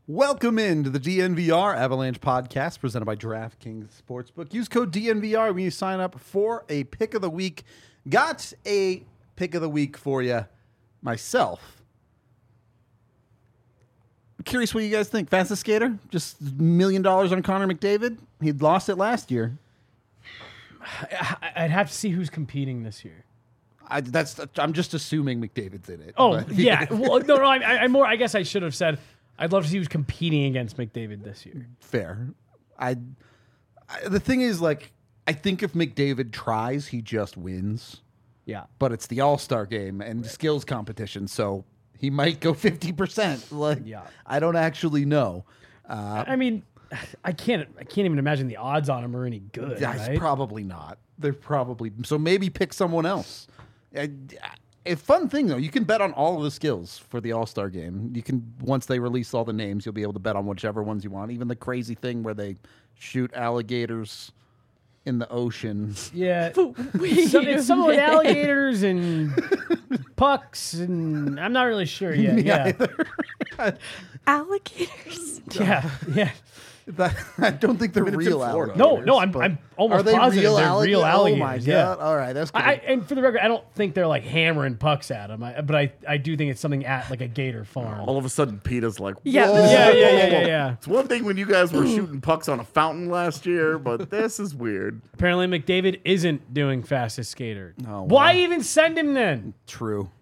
Welcome into the DNVR Avalanche podcast presented by DraftKings Sportsbook. Use code DNVR when you sign up for a pick of the week. Got a pick of the week for you myself. I'm curious what you guys think. Fastest skater? Just $1 million on Connor McDavid? He'd lost it last year. I'd have to see who's competing this year. I'm just assuming McDavid's in it. Oh, yeah. Well, no. I guess I should have said I'd love to see who's competing against McDavid this year. Fair. The thing is, like, I think if McDavid tries, he just wins. Yeah. But it's the All-Star game and skills competition, so he might go 50%. Like, Yeah. I don't actually know. I mean, I can't even imagine the odds on him are any good. Right? Probably not. They're probably so. Maybe pick someone else. A fun thing though, you can bet on all of the skills for the All-Star game. You can once they release all the names, you'll be able to bet on whichever ones you want. Even the crazy thing where they shoot alligators in the ocean. Yeah. It's some with alligators and pucks, and I'm not really sure yet. Yeah. Alligators? Yeah. I don't think they're real alligators. No, I'm almost positive they're real alligators. Oh my god! Yeah. All right, that's good. And for the record, I don't think they're like hammering pucks at them. But I do think it's something at like a gator farm. All of a sudden, PETA's like, Yeah. "Whoa." Yeah. It's one thing when you guys were shooting pucks on a fountain last year, but this is weird. Apparently, McDavid isn't doing fastest skater. Oh, Why wow. even send him then? True.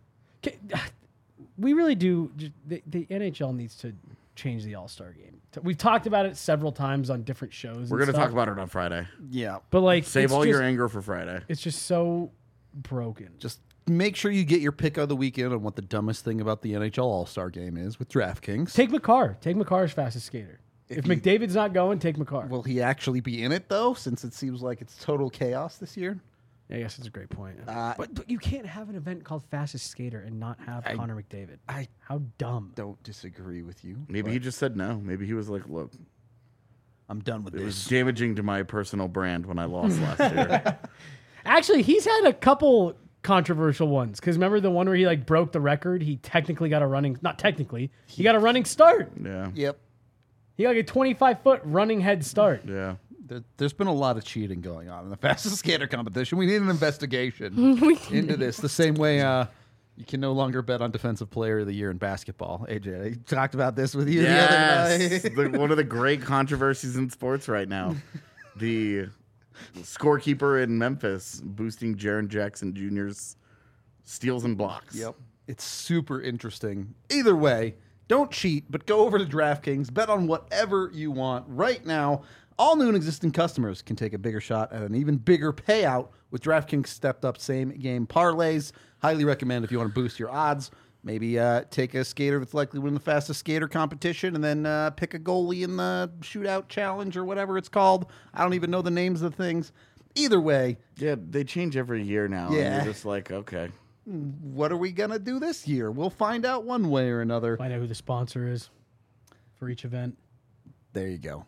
We really do. The NHL needs to change the All-Star game. We've talked about it several times on different shows. We're going to talk about it on Friday. Yeah. But like, Save all your anger for Friday. It's just so broken. Just make sure you get your pick of the weekend on what the dumbest thing about the NHL All-Star game is with DraftKings. Take Makar. Take Makar's fastest skater. If McDavid's not going, take Makar. Will he actually be in it, though, since it seems like it's total chaos this year? I guess that's a great point. But you can't have an event called fastest skater and not have Connor McDavid. How dumb. Don't disagree with you. Maybe he just said no. Maybe he was like, look, I'm done with it was this. damaging to my personal brand when I lost last year. Actually, he's had a couple controversial ones. Because remember the one where he like broke the record? He technically got a running, not technically, he got a running start. Yeah. Yep. He got like a 25-foot running head start. Yeah. There's been a lot of cheating going on in the fastest skater competition. We need an investigation into this. The same way you can no longer bet on defensive player of the year in basketball. AJ, I talked about this with you the other night. One of the great controversies in sports right now. The scorekeeper in Memphis boosting Jaren Jackson Jr.'s steals and blocks. Yep. It's super interesting. Either way, don't cheat, but go over to DraftKings. Bet on whatever you want right now. All new and existing customers can take a bigger shot at an even bigger payout with DraftKings stepped-up same-game parlays. Highly recommend if you want to boost your odds. Maybe take a skater that's likely to win the fastest skater competition and then pick a goalie in the shootout challenge or whatever it's called. I don't even know the names of things. Either way. Yeah, they change every year now. Yeah. And you're just like, okay. What are we going to do this year? We'll find out one way or another. Find out who the sponsor is for each event. There you go.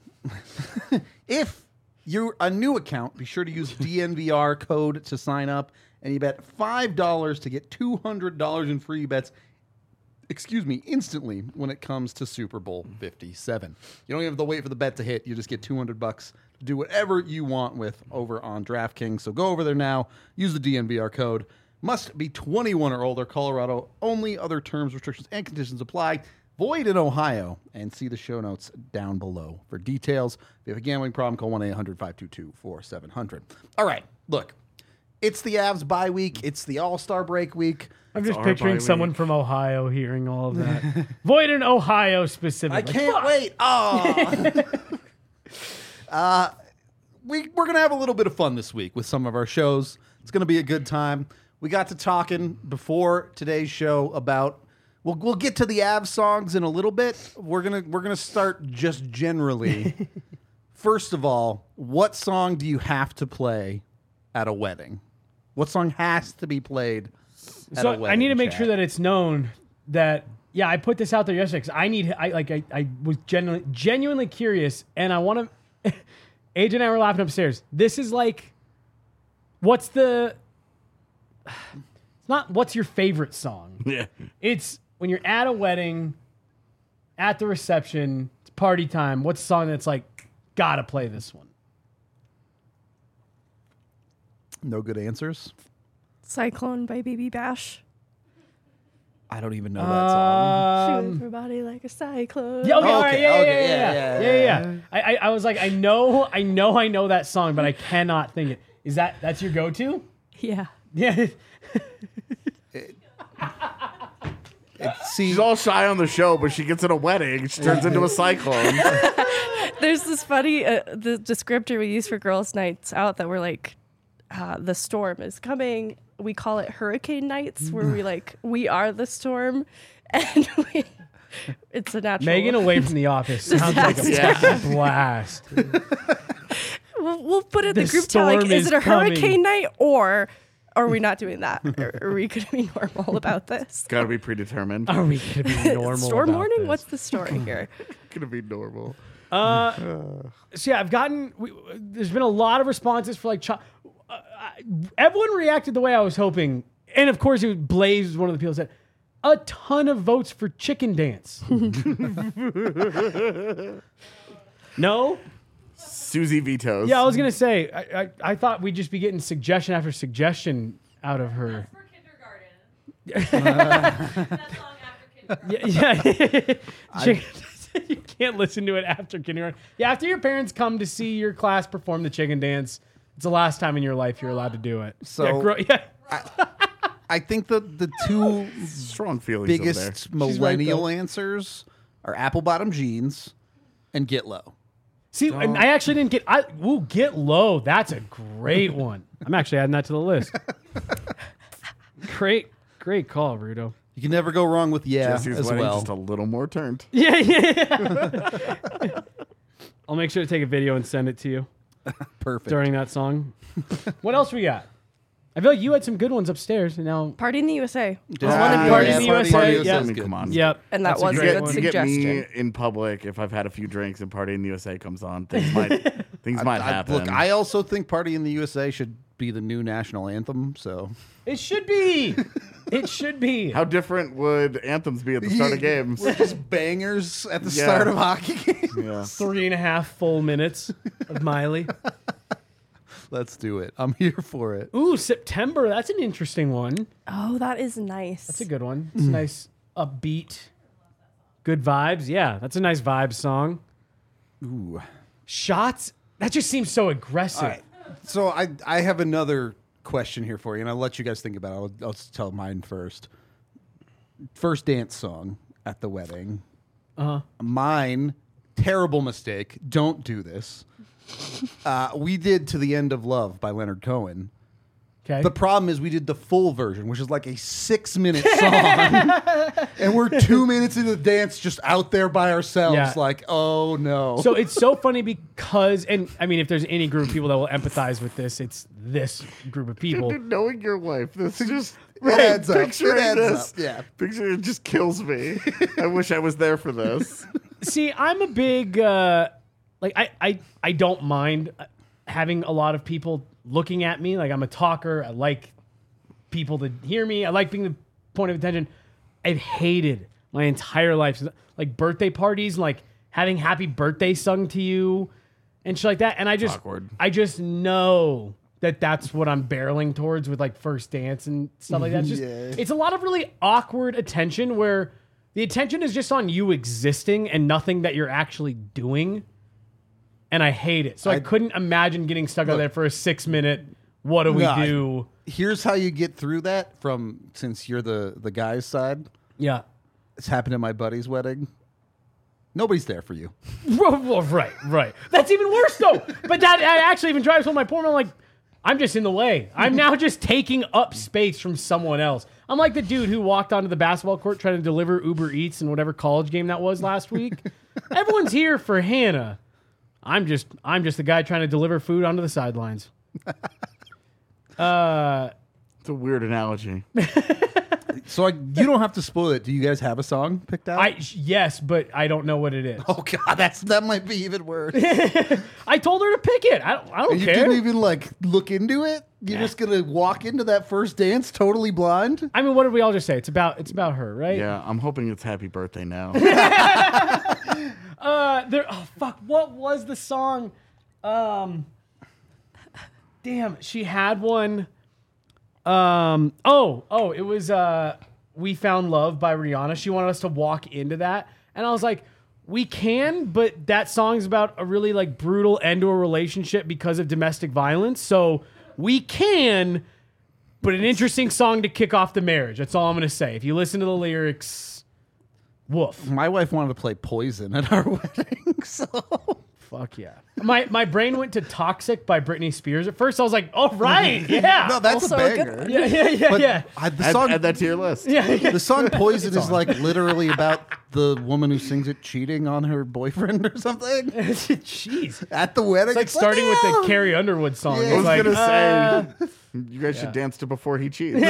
If you're a new account, be sure to use DNVR code to sign up, and you bet $5 to get $200 in free bets, instantly when it comes to Super Bowl 57. You don't even have to wait for the bet to hit. You just get $200 to do whatever you want with over on DraftKings. So go over there now. Use the DNVR code. Must be 21 or older. Colorado only. Other terms, restrictions, and conditions apply. Void in Ohio, and see the show notes down below for details. If you have a gambling problem, call 1-800-522-4700. All right, look, it's the Avs bye week. It's the All-Star break week. I'm just our picturing bye someone week. from Ohio hearing all of that. Void in Ohio specifically. I can't wait. Oh. We're going to have a little bit of fun this week with some of our shows. It's going to be a good time. We got to talking before today's show about... We'll get to the Avs songs in a little bit. We're gonna start just generally. First of all, what song do you have to play at a wedding? What song has to be played at a wedding? I need to make Chad? sure that it's known that I put this out there yesterday because I was genuinely curious, and I want to. AJ and I were laughing upstairs. This is like, what's the? It's not what's your favorite song. Yeah. It's when you're at a wedding at the reception. It's party time. What's a song that's like, gotta play this one? No good answers. Cyclone by BB Bash. I don't even know that song. Shoot everybody like a cyclone. Yeah, okay, all right, okay, yeah. I was like, I know that song, but I cannot think it. Is that's your go-to? Yeah. Yeah. See, She's all shy on the show, but she gets in a wedding. She turns into a cyclone. There's this funny the descriptor we use for girls' nights out that we're like, the storm is coming. We call it hurricane nights, where we are the storm, and it's a natural. Megan away from the office sounds like a blast. We'll put it in The the group chat. Like, storm is is it a coming. hurricane night, or are we not doing that? Are we going to be normal about this? Gotta be predetermined. Are we gonna be normal? Storm about warning? this? What's the story here? Gonna be normal. So yeah, I've gotten. There's been a lot of responses for like. Everyone reacted the way I was hoping, and of course, Blaze was one of the people that said a ton of votes for Chicken Dance. No. Susie vetoes. Yeah, I was gonna say. I thought we'd just be getting suggestion after suggestion out of her. For kindergarten. That song after kindergarten. Yeah. You can't listen to it after kindergarten. Yeah, after your parents come to see your class perform the Chicken Dance, it's the last time in your life you're allowed to do it. So- yeah. I think the two Strong feelings over there. biggest millennial though. answers are apple bottom jeans and get low. See, and I actually didn't get. Get low. That's a great one. I'm actually adding that to the list. Great call, Rudo. You can never go wrong with Jesse's as wedding well. just a little more turned. Yeah. I'll make sure to take a video and send it to you Perfect. during that song. What else we got? I feel like you had some good ones upstairs, and now. Party in the USA. Party in the USA, yeah. I mean, come on. Yep. And that That's a was a great good one. You get me suggestion. in public if I've had a few drinks and Party in the USA comes on. Things might happen. Look, I also think Party in the USA should be the new national anthem. So It should be. It should be. How different would anthems be at the start of games? We're just bangers at the Yeah. start of hockey games. Yeah. 3.5 full minutes of Miley. Let's do it. I'm here for it. Ooh, September. That's an interesting one. Oh, that is nice. That's a good one. It's a nice, upbeat, good vibes. Yeah, that's a nice vibes song. Ooh. Shots. That just seems so aggressive. All right. So I have another question here for you, and I'll let you guys think about it. I'll just tell mine first. First dance song at the wedding. Mine, terrible mistake. Don't do this. We did To the End of Love by Leonard Cohen. Okay. The problem is we did the full version, which is like a 6-minute song. And we're 2 minutes into the dance just out there by ourselves. Yeah. Like, oh no. So it's so funny because, and I mean, if there's any group of people that will empathize with this, it's this group of people. Knowing your wife, this is just It adds up. picturing It adds this. up, yeah. Picture it just kills me. I wish I was there for this. See, I'm a big, I don't mind having a lot of people looking at me. Like, I'm a talker. I like people to hear me. I like being the point of attention. I've hated my entire life, like birthday parties, and like having happy birthday sung to you and shit like that. And I just know that that's what I'm barreling towards with like first dance and stuff like that. It's just, it's a lot of really awkward attention where the attention is just on you existing and nothing that you're actually doing. And I hate it. So I couldn't imagine getting stuck out there for a 6-minute, what do we No, do? Here's how you get through that since you're the guy's side. Yeah. It's happened at my buddy's wedding. Nobody's there for you. Well, right. That's even worse though. But that actually even drives home my point. I'm like, I'm just in the way. I'm now just taking up space from someone else. I'm like the dude who walked onto the basketball court trying to deliver Uber Eats in whatever college game that was last week. Everyone's here for Hannah. I'm just the guy trying to deliver food onto the sidelines. It's a weird analogy. So you don't have to spoil it. Do you guys have a song picked out? Yes, but I don't know what it is. Oh God, that might be even worse. I told her to pick it. I don't You care. didn't even like look into it. You're just gonna walk into that first dance totally blind. I mean, what did we all just say? It's about her, right? Yeah, I'm hoping it's Happy Birthday Now. Oh fuck! What was the song? Damn, she had one. It was "We Found Love" by Rihanna. She wanted us to walk into that, and I was like, we can, but that song's about a really like brutal end to a relationship because of domestic violence. So we can, but an interesting song to kick off the marriage. That's all I'm gonna say. If you listen to the lyrics, woof. My wife wanted to play Poison at our wedding, so Fuck yeah. My brain went to Toxic by Britney Spears. At first I was like, oh right, yeah. no, that's Also a a good banger. one. yeah. But Yeah. the song, Add that to your list. the song "Poison" is like literally about the woman who sings it cheating on her boyfriend or something Jeez. at the wedding. It's like starting with the "Oh!" Carrie Underwood song. Yeah. I It's was like, gonna say you guys yeah. should dance to Before He Cheats.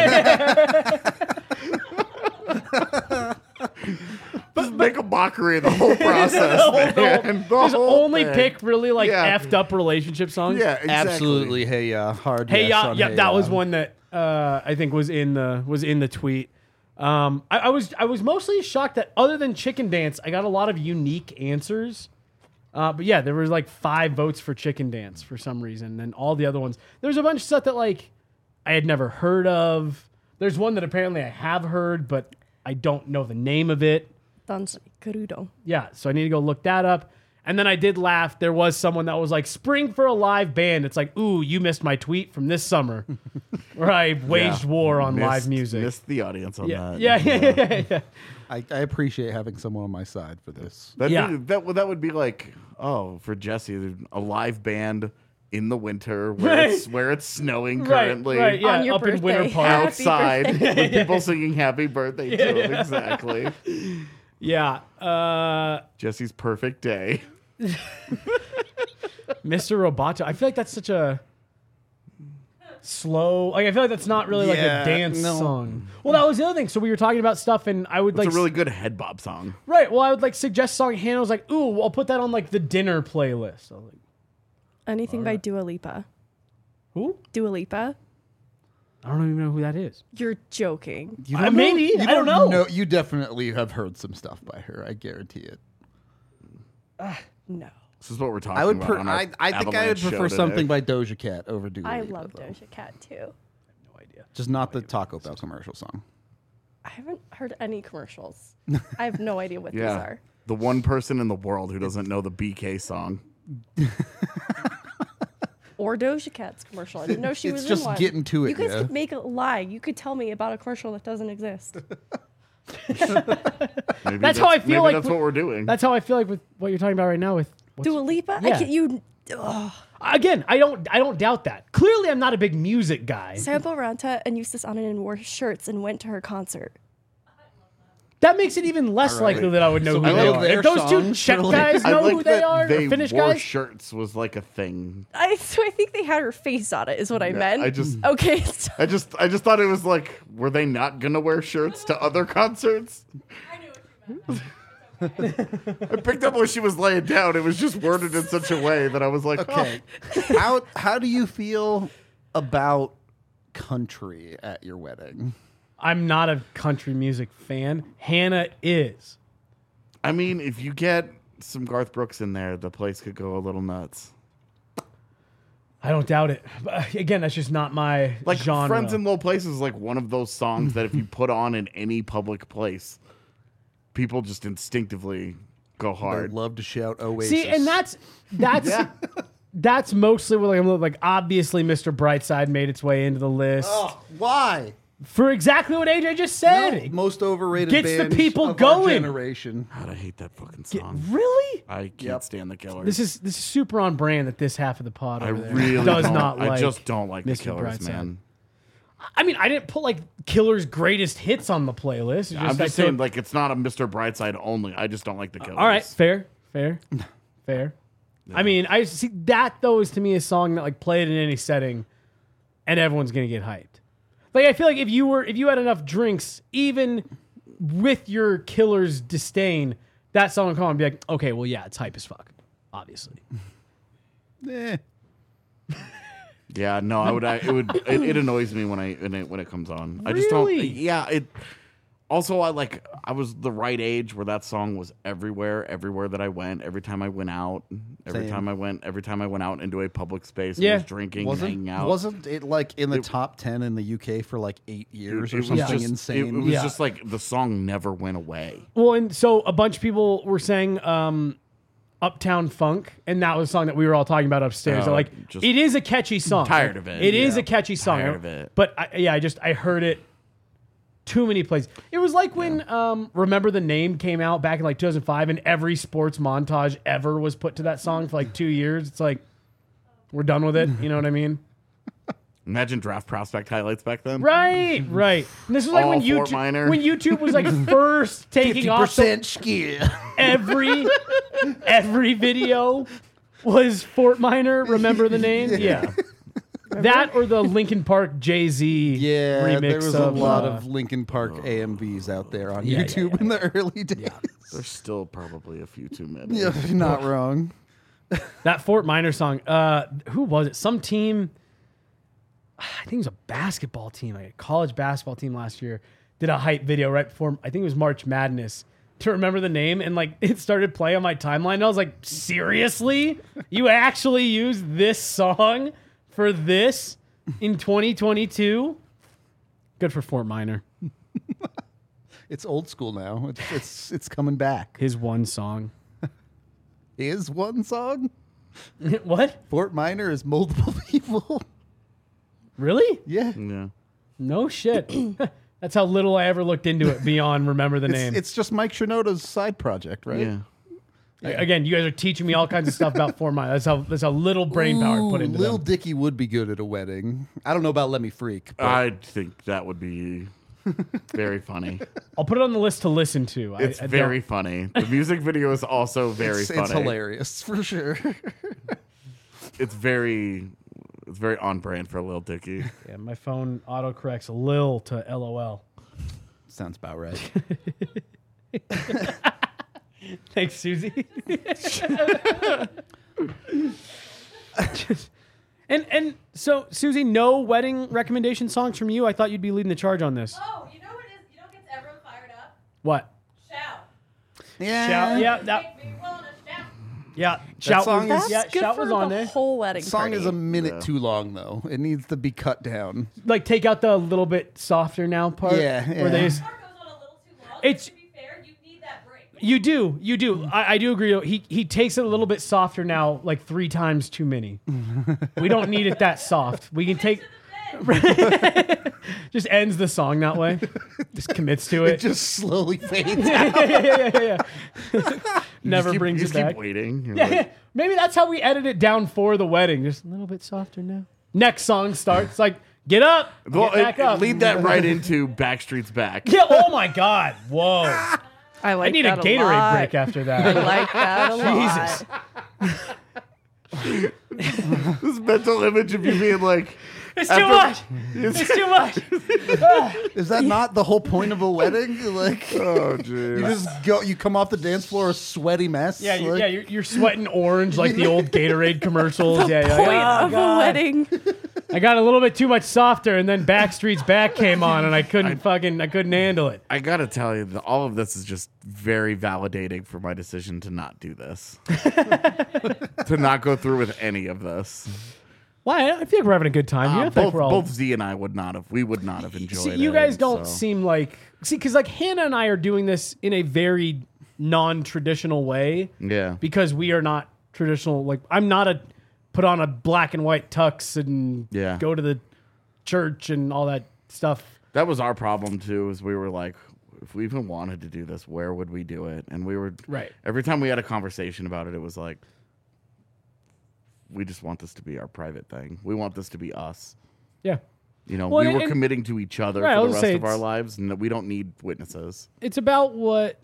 Just make a mockery of the whole process. man. The just whole only thing. pick really like Yeah. effed up relationship songs. Yeah, exactly. Absolutely. Hey, hard. Hey, yes yeah, on yeah, Hey that Ya. was one that I think was in the tweet. I was mostly shocked that other than Chicken Dance, I got a lot of unique answers. But yeah, there was like 5 votes for Chicken Dance for some reason, and all the other ones. There's a bunch of stuff that like I had never heard of. There's one that apparently I have heard, but I don't know the name of it. Danzai Kurudo. Yeah, so I need to go look that up. And then I did laugh. There was someone that was like, "Spring for a live band." It's like, ooh, you missed my tweet from this summer where I waged war on live music. Missed the audience on Yeah, that. yeah. I appreciate having someone on my side for this. Yeah. That would be like, oh, for Jesse, a live band in the winter where it's snowing currently. Right, yeah, On your up in Winter birthday. Park. Happy Outside birthday. with people singing happy birthday to him. Exactly. Yeah. Jesse's perfect day. Mr. Roboto. I feel like that's such a slow. Like I feel like that's not really like Yeah, a dance no. song. Well, that was the other thing. So we were talking about stuff, and I would It's like a really good head bob song. right. Well, I would like suggest a song. Hannah was like, "Ooh, I'll put that on like the dinner playlist." I was like, Anything by Dua Lipa. "Who? Dua Lipa? I don't even know who that is." You're joking. You don't know? maybe. I don't know. You definitely have heard some stuff by her. I guarantee it. No. This is what we're talking I would. about. on our I think I would Avalanche show prefer today. something by Doja Cat over Dua I Lipa, love though. Doja Cat too. No idea. Just not the Taco Bell commercial song. I haven't heard any commercials. I have no idea what these Yeah. are. The one person in the world who doesn't know the BK song. Or Doja Cat's commercial. I didn't know she It's was just in one. getting to it, You guys yeah. could make a lie. You could tell me about a commercial that doesn't exist. Maybe That's how I feel maybe like that's with- what we're doing. That's how I feel like with what you're talking about right now. With what's, Dua Lipa? Yeah. I can't, you. Ugh. again, I don't doubt that. Clearly, I'm not a big music guy. Sample Ranta and Eustace Ananen wore shirts and went to her concert. That makes it even less likely that I would know So who we they know are. their If those two songs, Czech really? guys I know like who they that are, they or Finnish wore guys. shirts was like a thing. So I think they had her face on it, is what I meant. I just- Okay. I just thought it was like, were they not gonna wear shirts to other concerts? I knew what you meant. I picked up when she was laying down. It was just worded in such a way that I was like, Okay. How do you feel about country at your wedding? I'm not a country music fan. Hannah is. I mean, if you get some Garth Brooks in there, the place could go a little nuts. I don't doubt it. But again, that's just not my Like genre. Friends in Low Places is like one of those songs that if you put on in any public place, people just instinctively go I'd hard. love to shout Oasis. See, and that's mostly what like obviously Mr. Brightside made its way into the list why? for exactly what AJ just said. Most overrated Gets the band people of our going. generation. God, I hate that fucking song. Really? I can't stand the Killers. This is super on brand that this half of the pod I over there really does don't, not like. I just don't like the Mr. Killers, Brightside. man. I mean, I didn't put like Killer's greatest hits on the playlist. It's I'm I just saying, took- like, it's not a Mr. Brightside only. I just don't like the Killers. all right, fair. I mean, I see that though is to me a song that like played in any setting, and everyone's gonna get hyped. Like I feel like if you had enough drinks, even with your killer's disdain, that song would come on and be like, okay, well, yeah, it's hype as fuck, obviously. Eh. Yeah, no, it annoys me when it comes on. I just don't. Really? Yeah, it. Also, I was the right age where that song was everywhere that I went. Every time I went out, every time I went out into a public space, Yeah. and was drinking, and hanging out. Wasn't it like in the top 10 in the UK for like 8 years or It was something just- insane? It was Yeah. just like the song never went away. Well, and so a bunch of people were saying Uptown Funk, and that was a song that we were all talking about upstairs. Oh, So, like, just it is a catchy song. tired of it. It is Yeah. a catchy song. Tired of it. But I heard it too many places. It was like when Remember the Name came out back in like 2005, and every sports montage ever was put to that song for like 2 years. It's like, we're done with it. You know what I mean? Imagine Draft Prospect highlights back then. Right. And this was like All when Fort Minor. YouTube was like first taking off. So 50% skill. every video was Fort Minor. Remember the Name? Yeah. That or the Linkin Park Jay-Z Yeah, remix there was of a lot of Linkin Park AMVs out there on Yeah, YouTube in the early days. There's still probably a few too many. Yeah, you're not wrong. that Fort Minor song. Who was it? Some team. I think it was a basketball team, like a college basketball team last year, did a hype video right before, I think it was March Madness, to Remember the Name, and like it started playing on my timeline, and I was like, seriously? You actually use this song for this in 2022? Good for Fort Minor. It's old school now. It's coming back. His one song. Is one song? What? Fort Minor is multiple people. Really? Yeah. Yeah. No shit. That's how little I ever looked into it beyond Remember the Name. It's just Mike Shinoda's side project, right? Yeah. Again, you guys are teaching me all kinds of stuff about Fort Minor. That's how little brain power I put into Lil them. Dicky would be good at a wedding. I don't know about Let Me Freak. But I think that would be very funny. I'll put it on the list to listen to. It's I very funny. The music video is also very funny. it's hilarious for sure. It's very on brand for Lil Dicky. Yeah, my phone autocorrects Lil to LOL. Sounds about right. Thanks, Susie. And so, Susie, no wedding recommendation songs from you? I thought you'd be leading the charge on this. Oh, you know what is? You know what gets everyone fired up? What? Shout. Yeah. Shout, yeah, that, Make me wanna shout. yeah. Shout song was, is- yeah, That's good Shout for was on the there. whole wedding The song party. is a minute Yeah. too long though. It needs to be cut down. Like, take out the little bit softer now part. Yeah, Where they yeah. just, Part goes on a little too long. It's- To be fair, you need that break. you do. I do agree. Though. He takes it a little bit softer now, like 3 times too many. We don't need it that soft. We can take. To the bed. Just ends the song that way. Just commits to It it. just slowly fades. yeah. Never brings You it just back. keep waiting. You're Yeah, like, maybe that's how we edit it down for the wedding. Just a little bit softer now. Next song starts like, get up, well, get back up. lead that right into Backstreet's Back. Yeah. Oh my God. Whoa. I like I need a that Gatorade lot. break after I that. like that a lot. Jesus. This mental image of you being like, It's too much. It's It's too much. Is that not the whole point of a wedding? Like, oh, you jeez. just go, you come off the dance floor a sweaty mess. Yeah, like, you're sweating orange like the old Gatorade commercials. Yeah, Point oh, of God. a wedding. I got a little bit too much softer, and then Backstreet's Back came on, and I couldn't handle it. I gotta tell you, that all of this is just very validating for my decision to not do this, to not go through with any of this. Why? I feel like we're having a good time here. I feel like we're all. Both Z and I would not have enjoyed See, it. you guys don't so. seem like because like Hannah and I are doing this in a very non-traditional way Yeah. because we are not traditional. Like I'm not a put on a black and white tux and Yeah. go to the church and all that stuff. That was our problem too, is we were like, if we even wanted to do this, where would we do it? And we were Right. every time we had a conversation about it, it was like, we just want this to be our private thing. We want this to be us. Yeah. You know, Well, we were and- committing to each other Right, I for was the gonna rest say of our it's- lives, and that we don't need witnesses. It's about what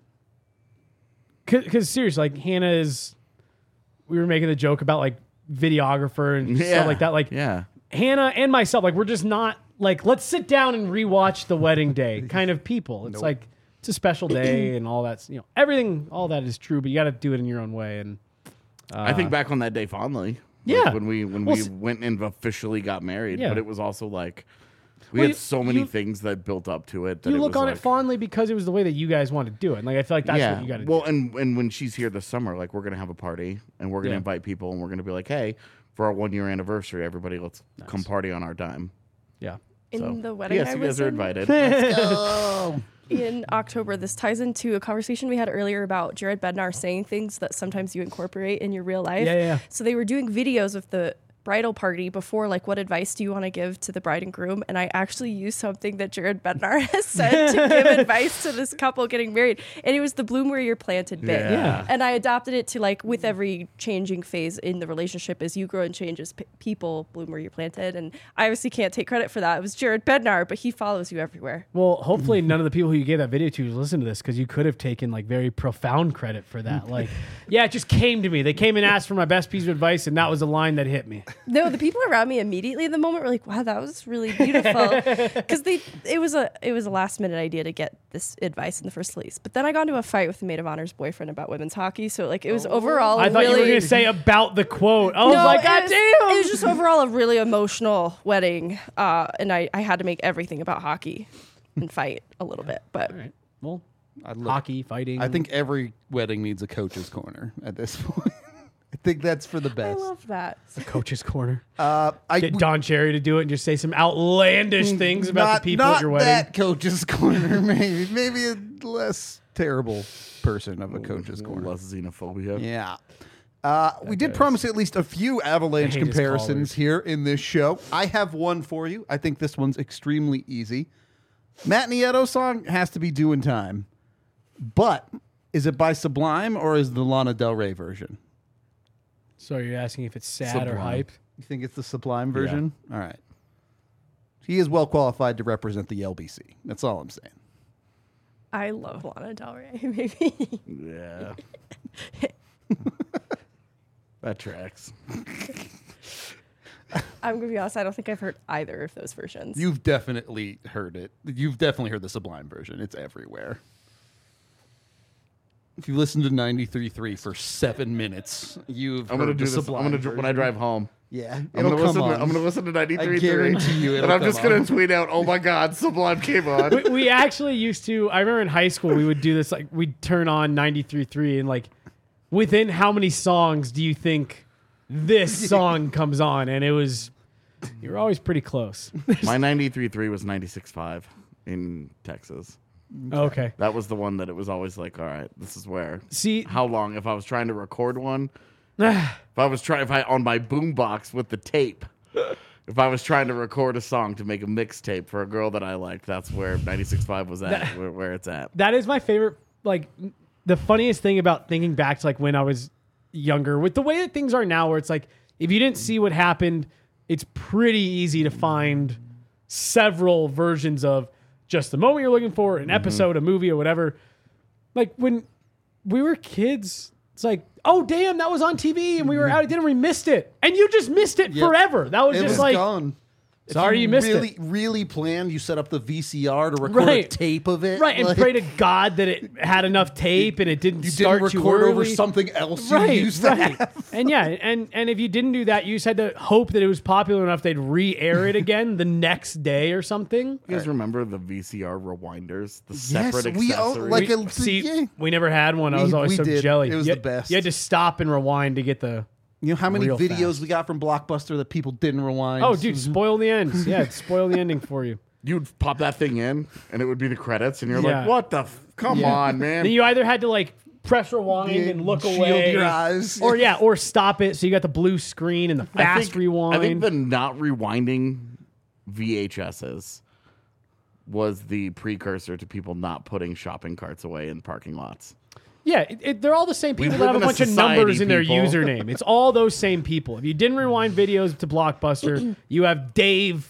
because seriously, like Hannah is we were making the joke about like videographer and stuff like that. Like yeah. Hannah and myself, like we're just not like let's sit down and rewatch the wedding day kind of people. It's like it's a special day and all that's everything, all that is true, but you got to do it in your own way. And I think back on that day fondly. Yeah. When we went and officially got married, Yeah. but it was also like we Well, had so many you- things that built up to it. That you it look was on like, it fondly because it was the way that you guys wanted to do it. And like I feel like that's yeah. what you got to Well, do. and when she's here this summer, like we're gonna have a party and we're gonna Yeah. invite people and we're gonna be like, hey, for our 1 year anniversary, everybody, let's come party on our dime. Yeah. In So, the wedding yes, I you was guys are in invited. in October, this ties into a conversation we had earlier about Jared Bednar saying things that sometimes you incorporate in your real life. Yeah. So they were doing videos of the bridal party before, like, what advice do you want to give to the bride and groom? And I actually used something that Jared Bednar has said to give advice to this couple getting married. And it was the bloom where you're planted bit. Yeah. And I adopted it to, like, with every changing phase in the relationship, as you grow and change as people, bloom where you're planted. And I obviously can't take credit for that. It was Jared Bednar, but he follows you everywhere. Well, hopefully none of the people who you gave that video to listen to this because you could have taken like very profound credit for that. Like, yeah, it just came to me. They came and asked for my best piece of advice, and that was a line that hit me. No, the people around me immediately in the moment were like, "Wow, that was really beautiful," because it was a last minute idea to get this advice in the first place. But then I got into a fight with the maid of honor's boyfriend about women's hockey, so like it was overall. I thought really, you were going to say about the quote. I was no, like, God it damn. was just overall a really emotional wedding, and I had to make everything about hockey and fight a little bit, but. All right. Well, I look- hockey, fighting. I think every wedding needs a coach's corner at this point. I think that's for the I best. love that. the coach's corner. I Get Don Cherry to do it and just say some outlandish things about not, the people not at your wedding. that coach's corner, maybe a less terrible person of a coach's corner. Less xenophobia. Yeah. We did promise at least a few Avalanche I hate his comparisons callers. here in this show. I have one for you. I think this one's extremely easy. Matt Nieto song has to be Doing Time. But is it by Sublime or is the Lana Del Rey version? So you're asking if it's sad or Sublime. hype? You think it's the Sublime version? All right. He is well qualified to represent the LBC. That's all I'm saying. I love Lana Del Rey. Maybe. Yeah. That tracks. I'm gonna be honest. I don't think I've heard either of those versions. You've definitely heard it. You've definitely heard the Sublime version. It's everywhere. If you listen to 93.3 for 7 minutes, you've I'm heard gonna do the this. I'm Sublime gonna when I version. drive home. Yeah, I'm it'll gonna come listen. on. I'm gonna listen to 93.3. I guarantee you it'll and I'm come just gonna on. tweet out, "Oh my God, Sublime came on." We actually used to. I remember in high school we would do this. Like we'd turn on 93.3 and like, within how many songs do you think this song comes on? And it was, you were always pretty close. My 93.3 was 96.5 in Texas. Okay. That was the one that it was always like, all right, this is where. See, How long? If I was trying to record one, if I on my boombox with the tape, if I was trying to record a song to make a mixtape for a girl that I liked, that's where 96.5 was at, where it's at. that is my favorite. Like the funniest thing about thinking back to like when I was younger, with the way that things are now, where it's like if you didn't see what happened, it's pretty easy to find several versions of just the moment you're looking for, an episode, a movie, or whatever. Like when we were kids, it's like, oh damn, that was on TV, and we were out at dinner, we missed it, and you just missed it Yep. forever. That was It just was like, gone. If sorry you missed really, it. Really planned. You set up the VCR to record a Right. tape of it, Right, and like, pray to God that it had enough tape and it didn't you start didn't too record over early. something else Right, you used to right. have. And yeah, and if you didn't do that, you just had to hope that it was popular enough they'd re-air it again the next day or something. You guys remember the VCR rewinders? The Yes, separate we accessories? own like a See, yeah. we never had one. I was always we so did. jelly. It was You- the best. You had to stop and rewind to get the. You know how many real videos fast. we got from Blockbuster that people didn't rewind? Oh, dude, spoil the ends. Yeah, spoil the ending for you. You'd pop that thing in, and it would be the credits, and you're Yeah. like, what the come Yeah. on, man. Then you either had to like press rewind Yeah, and look shield away, your eyes. or stop it so you got the blue screen and the fast rewind. I think the not rewinding VHSs was the precursor to people not putting shopping carts away in parking lots. Yeah, they're all the same people that live have a in a bunch of society, numbers in their people. username. It's all those same people. If you didn't rewind videos to Blockbuster, you have Dave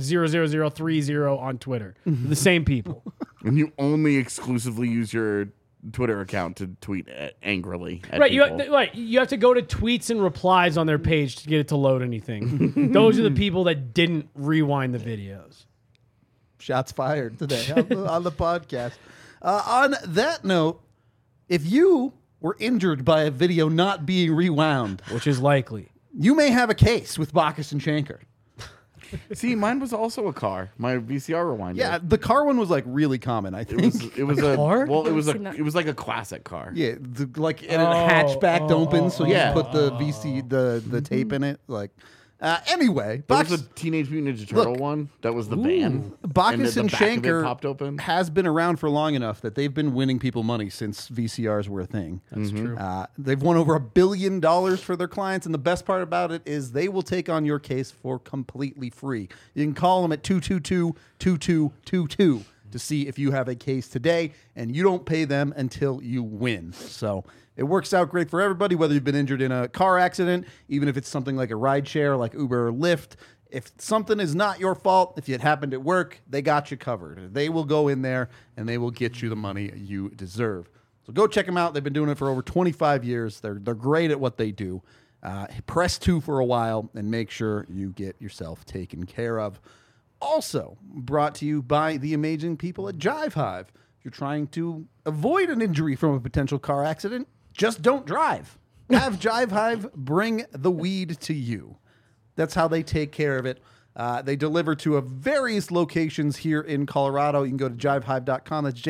45789650030 on Twitter. The same people. And you only exclusively use your Twitter account to tweet angrily at Right, people. you have to go to tweets and replies on their page to get it to load anything. Those are the people that didn't rewind the videos. Shots fired today on the podcast. On that note, if you were injured by a video not being rewound, Which is likely. you may have a case with Bacchus and Shanker. See, mine was also a car. My VCR rewinder. Yeah, the car one was like really common, I think. It was a car? well, it was Seen that. it was like a classic car. Yeah, like and a hatchback opens, so you Yeah. just put the the tape in it. Like, anyway, There was Bacchus, a Teenage Mutant Ninja Turtle Look. one that was the van. Bacchus and and the back of it Shanker popped open. has been around for long enough that they've been winning people money since VCRs were a thing. That's true. They've won over $1 billion for their clients, and the best part about it is they will take on your case for completely free. You can call them at 222-2222 to see if you have a case today, and you don't pay them until you win. So it works out great for everybody, whether you've been injured in a car accident, even if it's something like a ride share like Uber or Lyft. If something is not your fault, if it happened at work, they got you covered. They will go in there and they will get you the money you deserve. So go check them out. They've been doing it for over 25 years. They're great at what they do. Press 2 for a while and make sure you get yourself taken care of. Also brought to you by the amazing people at Jive Hive. If you're trying to avoid an injury from a potential car accident, just don't drive. Have Jive Hive bring the weed to you. That's how they take care of it. They deliver to various locations here in Colorado. You can go to jivehive.com. That's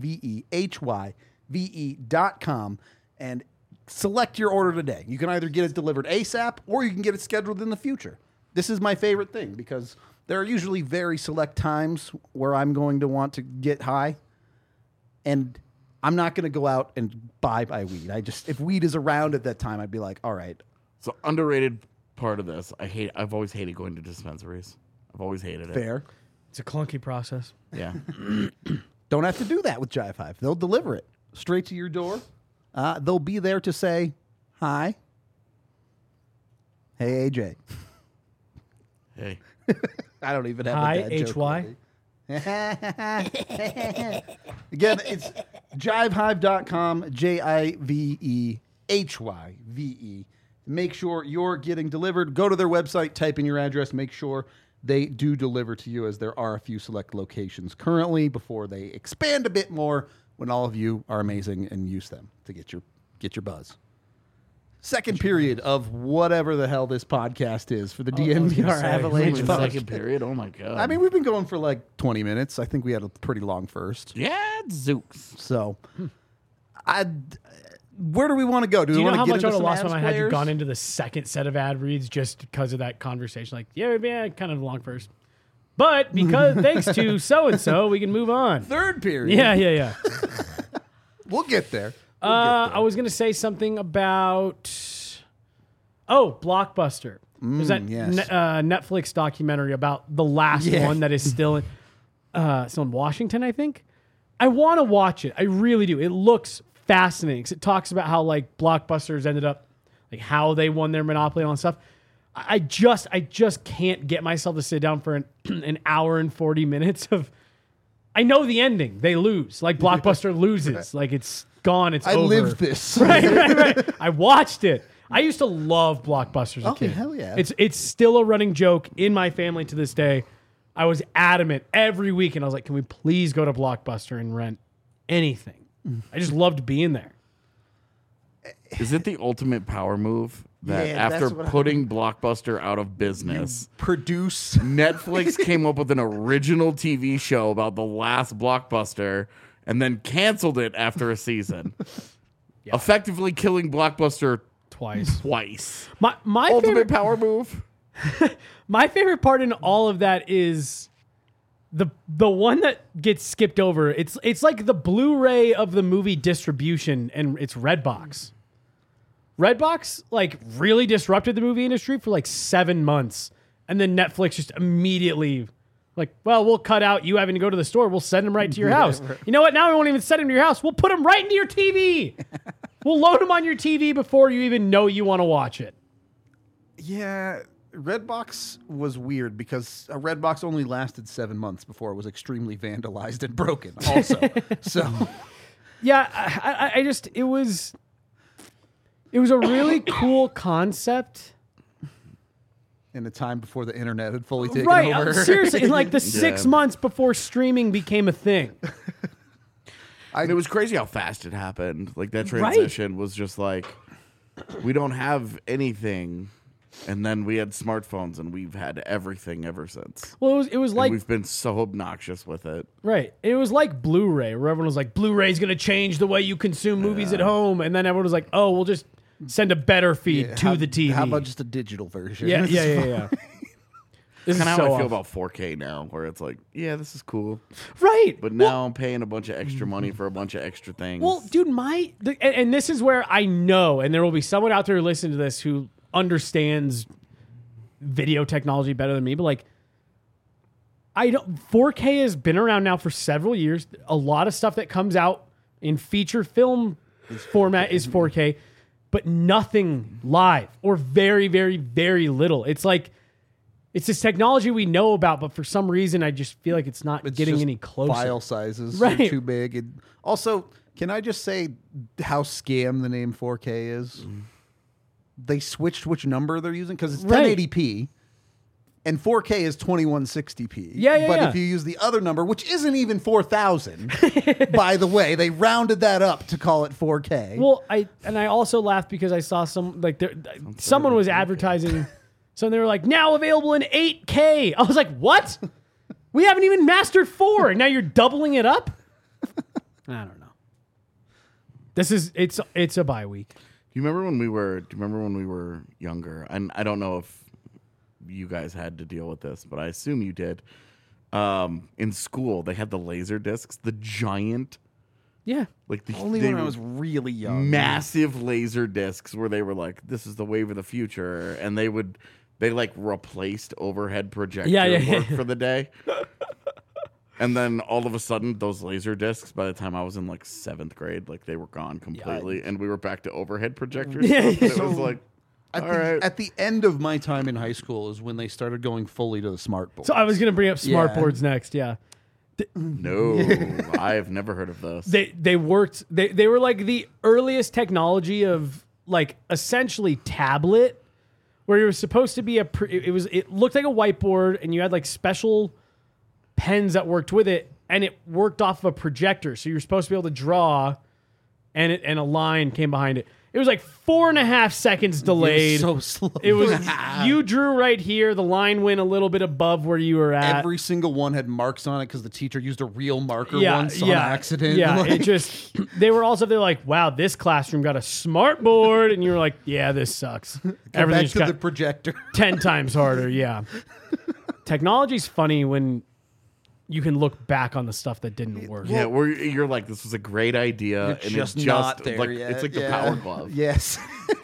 JIVEHYVE.com and select your order today. You can either get it delivered ASAP or you can get it scheduled in the future. This is my favorite thing because there are usually very select times where I'm going to want to get high, and I'm not going to go out and buy weed. If weed is around at that time, I'd be like, all right. So underrated part of this, I've always hated going to dispensaries. I've always hated it. Fair. It's a clunky process. Yeah. Don't have to do that with Jive Hive. They'll deliver it straight to your door. They'll be there to say, hi. Hey, AJ. Hey. I don't even have Hi, a dad joke HY. ready. Again, it's jivehive.com, JIVEHYVE. Make sure you're getting delivered. Go to their website, type in your address, make sure they do deliver to you, as there are a few select locations currently before they expand a bit more when all of you are amazing and use them to get your buzz. Second period of whatever the hell this podcast is for the DNVR say, Avalanche The podcast. second period. Oh my god. I mean, we've been going for like 20 minutes. I think we had a pretty long first. yeah, Zooks. So, where do we want to go? Do you know we how want to much get I would into have some lost when Avs I had you players? gone into the second set of ad reads just because of that conversation? Like, yeah, kind of long first. But because thanks to so-and-so, we can move on. Third period. Yeah. We'll get there. I was going to say something about... Oh, Blockbuster. There's that yes. Netflix documentary about the last one that is still in Washington, I think. I want to watch it. I really do. It looks fascinating 'cause it talks about how like Blockbusters ended up, like how they won their monopoly and all that stuff. I just can't get myself to sit down for an hour and 40 minutes of. I know the ending. They lose. Like Blockbuster loses. Like it's gone. It's I over. lived this. Right. I watched it. I used to love Blockbuster as a kid. hell yeah. It's still a running joke in my family to this day. I was adamant every week, and I was like, can we please go to Blockbuster and rent anything? I just loved being there. Is it the ultimate power move that Yeah, after that's what putting Blockbuster out of business, Produce. Netflix came up with an original TV show about the last Blockbuster and then canceled it after a season, effectively killing Blockbuster twice. My Ultimate favorite, power move. my favorite part in all of that is the one that gets skipped over. It's like the Blu-ray of the movie distribution, and it's Redbox. Redbox like really disrupted the movie industry for like 7 months, and then Netflix just immediately like, well, we'll cut out you having to go to the store. We'll send them right to your house. You know what? Now we won't even send them to your house. We'll put them right into your TV. We'll load them on your TV before you even know you want to watch it. Yeah, Redbox was weird because a Redbox only lasted 7 months before it was extremely vandalized and broken. Also, so Yeah, I just it was a really cool concept. In a time before the internet had fully taken Right, over. seriously, in like the 6 Yeah. months before streaming became a thing. And it was crazy how fast it happened. Like that transition was just like, we don't have anything, and then we had smartphones, and we've had everything ever since. Well, it was And like we've been so obnoxious with it. right. It was like Blu-ray, where everyone was like, "Blu-ray's going to change the way you consume movies at home," and then everyone was like, "Oh, we'll just send a better feed Yeah, to the TV." How about just a digital version? yeah, yeah, yeah, yeah. This is Kind of so how I feel off. about 4K now, where it's like, yeah, this is cool, Right, but now I'm paying a bunch of extra money for a bunch of extra things. Well, dude, and this is where I know, and there will be someone out there who listens to this who understands video technology better than me, but like, 4K has been around now for several years. A lot of stuff that comes out in feature film format is 4K, but nothing live or very, very, very little. It's like, it's this technology we know about, but for some reason, I just feel like it's not It's getting just any closer. File sizes Right. are too big. And also, can I just say how scam the name 4K is? They switched which number they're using because it's Right. 1080p. And 4K is 2160p. Yeah, But yeah. if you use the other number, which isn't even 4000, by the way, they rounded that up to call it 4K. Well, I also laughed because I saw someone was advertising, so they were like, now available in 8K. I was like, what? We haven't even mastered 4, and now you're doubling it up? I don't know. It's a bye week. Do you remember when we were younger? And I don't know if you guys had to deal with this, but I assume you did. In school, they had the laser discs, the giant, Yeah. like the Only they when I were was really young. massive laser discs where they were like, "This is the wave of the future," and they like replaced overhead projector Yeah. work for the day. And then all of a sudden, those laser discs, by the time I was in like 7th grade, like they were gone completely, and we were back to overhead projectors. Yeah, It yeah. was like, At, all the, right. at the end of my time in high school is when they started going fully to the smart board. So I was going to bring up smart Yeah. boards next, yeah. No, I've never heard of this. They worked, they were like the earliest technology of like essentially tablet, where it was supposed to be it looked like a whiteboard, and you had like special pens that worked with it, and it worked off of a projector. So you were supposed to be able to draw, and a line came behind it. It was like 4.5 seconds delayed. so slow. It was you drew right here. The line went a little bit above where you were at. Every single one had marks on it because the teacher used a real marker yeah, once on yeah, accident. Yeah, Like, it just they're like, wow, this classroom got a smart board, and you were like, yeah, this sucks. go back Everything's to got the projector. 10 times harder. Yeah, technology's funny when you can look back on the stuff that didn't work. Yeah, where you're like, this was a great idea, You're and just it's not just there like yet. it's like the Yeah. Power Glove. Yes.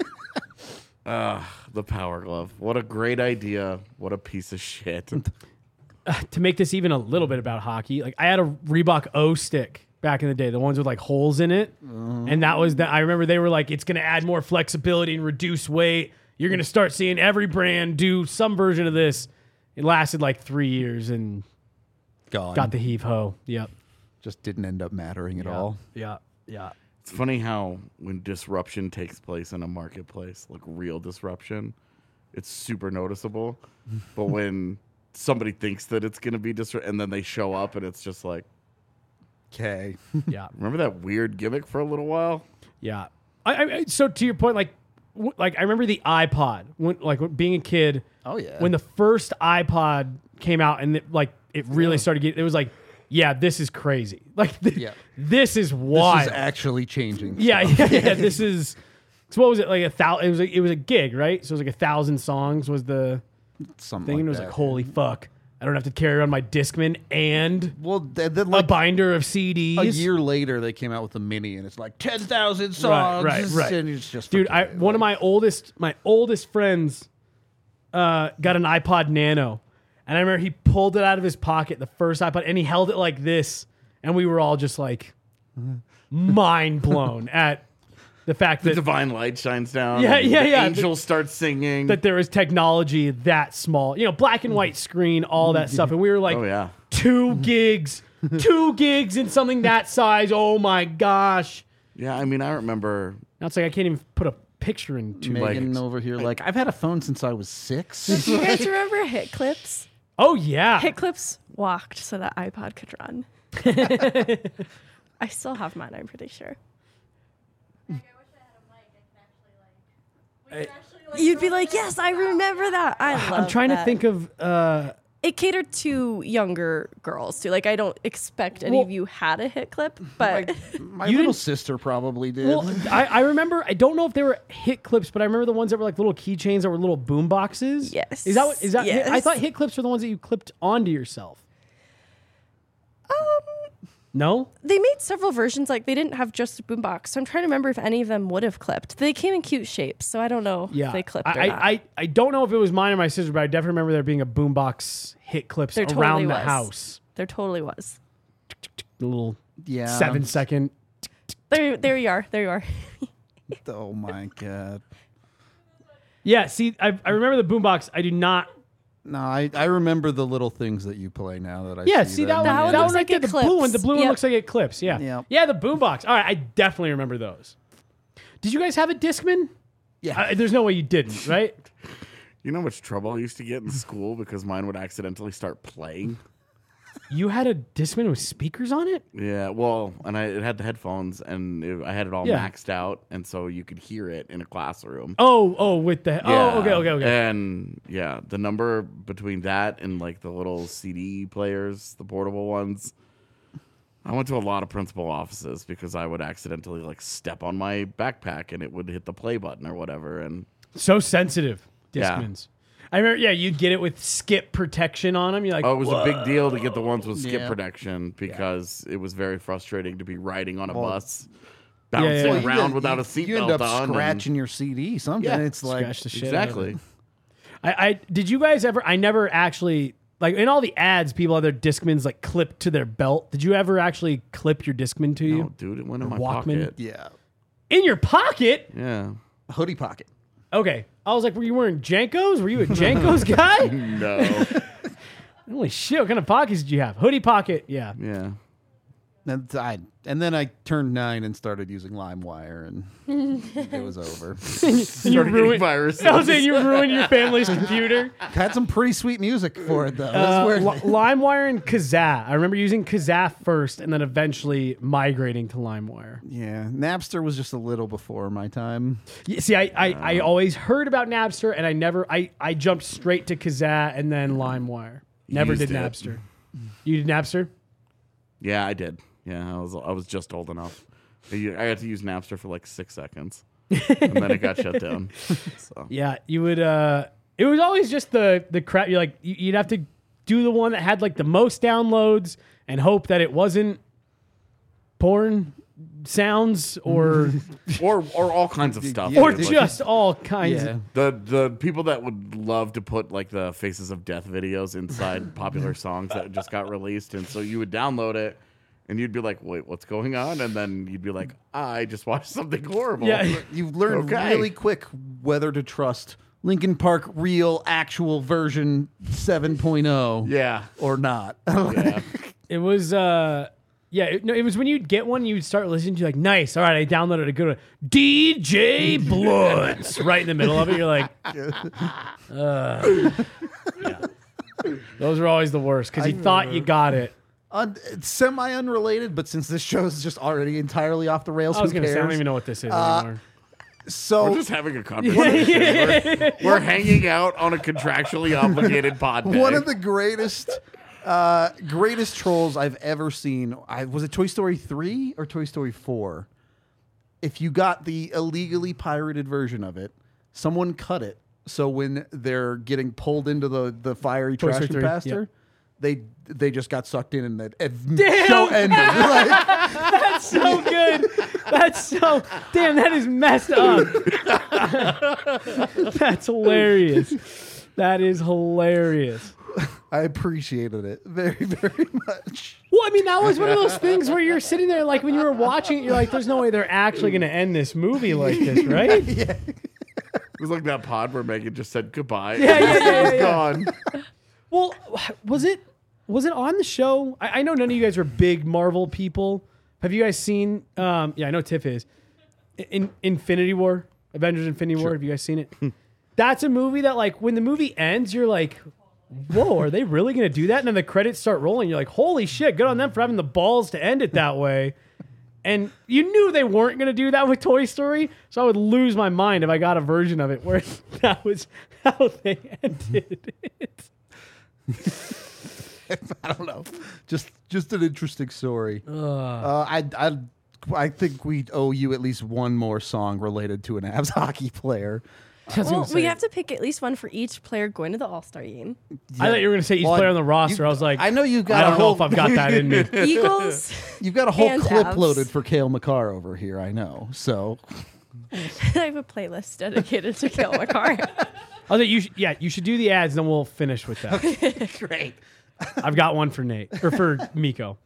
The Power Glove. What a great idea. What a piece of shit. To make this even a little bit about hockey, like I had a Reebok O stick back in the day, the ones with like holes in it, and that was I remember they were like, it's going to add more flexibility and reduce weight. You're going to start seeing every brand do some version of this. It lasted like 3 years and Gone. got the heave ho. Yep. Just didn't end up mattering at all. Yeah. Yeah. It's funny how when disruption takes place in a marketplace, like real disruption, it's super noticeable. But when somebody thinks that it's going to be and then they show up and it's just like, Okay. Yeah. remember that weird gimmick for a little while? Yeah. So to your point, like I remember the iPod when being a kid. Oh, yeah. When the first iPod came out and it really started getting, it was like, yeah, this is crazy. Like, Yeah. this is wild. This is actually changing. yeah. This is. So what was it like? 1,000? It was a gig, right? So it was like 1,000 songs was the Something thing. like And it was that. like, holy fuck! I don't have to carry around my Discman and Well, then a like binder of CDs. a year later, they came out with the mini, and it's like 10,000 songs. right. And it's just Dude, fucking- one of my oldest friends got an iPod Nano, and I remember he pulled it out of his pocket, the first iPod, and he held it like this, and we were all just like mind blown at the fact The that divine light shines down. Yeah, and yeah, the yeah. angels start singing. that there was technology that small, black and white screen, all that stuff, and we were like oh, yeah. 2 gigs 2 gigs in something that size. Oh my gosh. Yeah, I mean, I remember. Now it's like I can't even put a picture in 2 Megan gigs. over here, like, I've had a phone since I was 6. Do you guys remember Hit Clips? Oh yeah. Hit Clips walked so that iPod could run. I still have mine, I'm pretty sure. Like, I wish I had a mic. I could actually You'd be like, yes, I remember that. I love I'm trying to that. think of It catered to younger girls too. Like, I don't expect any of Well- you had a Hit Clip, but My You little didn't- sister probably did. well, I remember. I don't know if they were hit clips, but I remember the ones that were like little keychains that were little boom boxes. Yes. Is that what? Is that? Yes. I thought hit clips were the ones that you clipped onto yourself. No. they made several versions. Like, they didn't have just a boombox. So I'm trying to remember if any of them would have clipped. They came in cute shapes, so I don't know Yeah. if they clipped or not. I don't know if it was mine or my sister, but I definitely remember there being a boombox hit clips There around totally the was. house. There totally was. The little yeah. 7-second. There you are. There you are. Oh my god. Yeah. See, I remember the boombox. I do not. No, I remember the little things that you play now that I Yeah. see. See that one. That one That looks one right like there. it The blue one. clips. The blue one Yep. looks like it clips. Yeah. Yep. Yeah. The boombox. All right. I definitely remember those. Did you guys have a Discman? Yeah. There's no way you didn't, right? You know how much trouble I used to get in school because mine would accidentally start playing? You had a Discman with speakers on it? Yeah, well, and it had the headphones, and I had it all Yeah. maxed out, and so you could hear it in a classroom. With the Yeah. oh, okay. And yeah, the number between that and like the little CD players, the portable ones, I went to a lot of principal offices because I would accidentally like step on my backpack and it would hit the play button or whatever. And So sensitive, Yeah. Discmans. I remember, yeah, you'd get it with skip protection on them. You're like, oh, it was a big deal to get the ones with skip Yeah. protection because it was very frustrating to be riding on a Well, bus, yeah. bouncing Well, around without a seatbelt on. You end up and- scratching your CD. Something. Yeah, It's like scratch the shit out of exactly. it. I did you guys ever? I never actually like in all the ads. People have their Discmans like clipped to their belt. Did you ever actually clip your Discman to you No, dude, it went in Or my Walkman? pocket. yeah, in your pocket? Yeah. hoodie pocket. Okay, I was like, were you wearing Jankos? Were you a Jankos guy? No. Holy shit! What kind of pockets did you have? Hoodie pocket. Yeah. Yeah. And then I turned 9 and started using LimeWire, and it was over. And you Started getting ruined. viruses. I was saying you ruined your family's computer. Had some pretty sweet music for it though. That's where- LimeWire and Kazaa. I remember using Kazaa first, and then eventually migrating to LimeWire. yeah, Napster was just a little before my time. Yeah, see, I always heard about Napster, and I jumped straight to Kazaa and then LimeWire. Never Used did it. Napster. You did Napster? Yeah, I did. Yeah, I was just old enough. I had to use Napster for like 6 seconds, and then it got shut down. So. Yeah, you would. It was always just the crap. You're like, you'd have to do the one that had like the most downloads and hope that it wasn't porn sounds or or all kinds of stuff. or dude. Like, just all kinds. Yeah. Of, the people that would love to put like the Faces of Death videos inside popular songs that just got released, and so you would download it. And you'd be like, wait, what's going on? And then you'd be like, I just watched something horrible. Yeah. You've learned Okay. really quick whether to trust Linkin Park real actual version 7.0 Yeah. or not. Yeah. it was. It was when you'd get one, you'd start listening to like, nice. All right, I downloaded a good one. DJ Bloods right in the middle of it. You're like, yeah. Those were always the worst because you thought you got it. It's semi-unrelated, but since this show is just already entirely off the rails, I was who going to cares? say, I don't even know what this is anymore. So We're just having a conversation. We're hanging out on a contractually obligated pod bag. one of the greatest trolls I've ever seen. Was it Toy Story 3 or Toy Story 4? If you got the illegally pirated version of it, someone cut it. So when they're getting pulled into the fiery Toy trash Story 3, capacitor, they just got sucked in and the Damn! show ended. Like, That's so good. That's so damn. That is messed up. That's hilarious. That is hilarious. I appreciated it very, very much. Well, I mean, that was one of those things where you're sitting there, like when you were watching it, you're like, "There's no way they're actually going to end this movie like this, right?" It was like that pod where Megan just said goodbye. Yeah, and yeah, it was yeah. gone. Well, was it? Was it on the show? I know none of you guys are big Marvel people. Have you guys seen? Yeah, I know Tiff is. In Infinity War, Avengers: Infinity War. Have you guys seen it? That's a movie that, like, when the movie ends, you're like, "Whoa, are they really going to do that?" And then the credits start rolling. You're like, "Holy shit! Good on them for having the balls to end it that way." And you knew they weren't going to do that with Toy Story, so I would lose my mind if I got a version of it where that was how they ended it. I don't know. Just an interesting story. I think we owe you at least one more song related to an Avs hockey player. Well, we have to pick at least one for each player going to the All-Star game. I thought you were going to say each player on the roster. I was like, I know you got. I don't know if I've got that in me. Eagles. You've got a whole and clip Avs. loaded for Cale Makar over here. I know. So I have a playlist dedicated to Cale Makar. I thought you should do the ads, then we'll finish with that. great. I've got one for Nate or for Miko.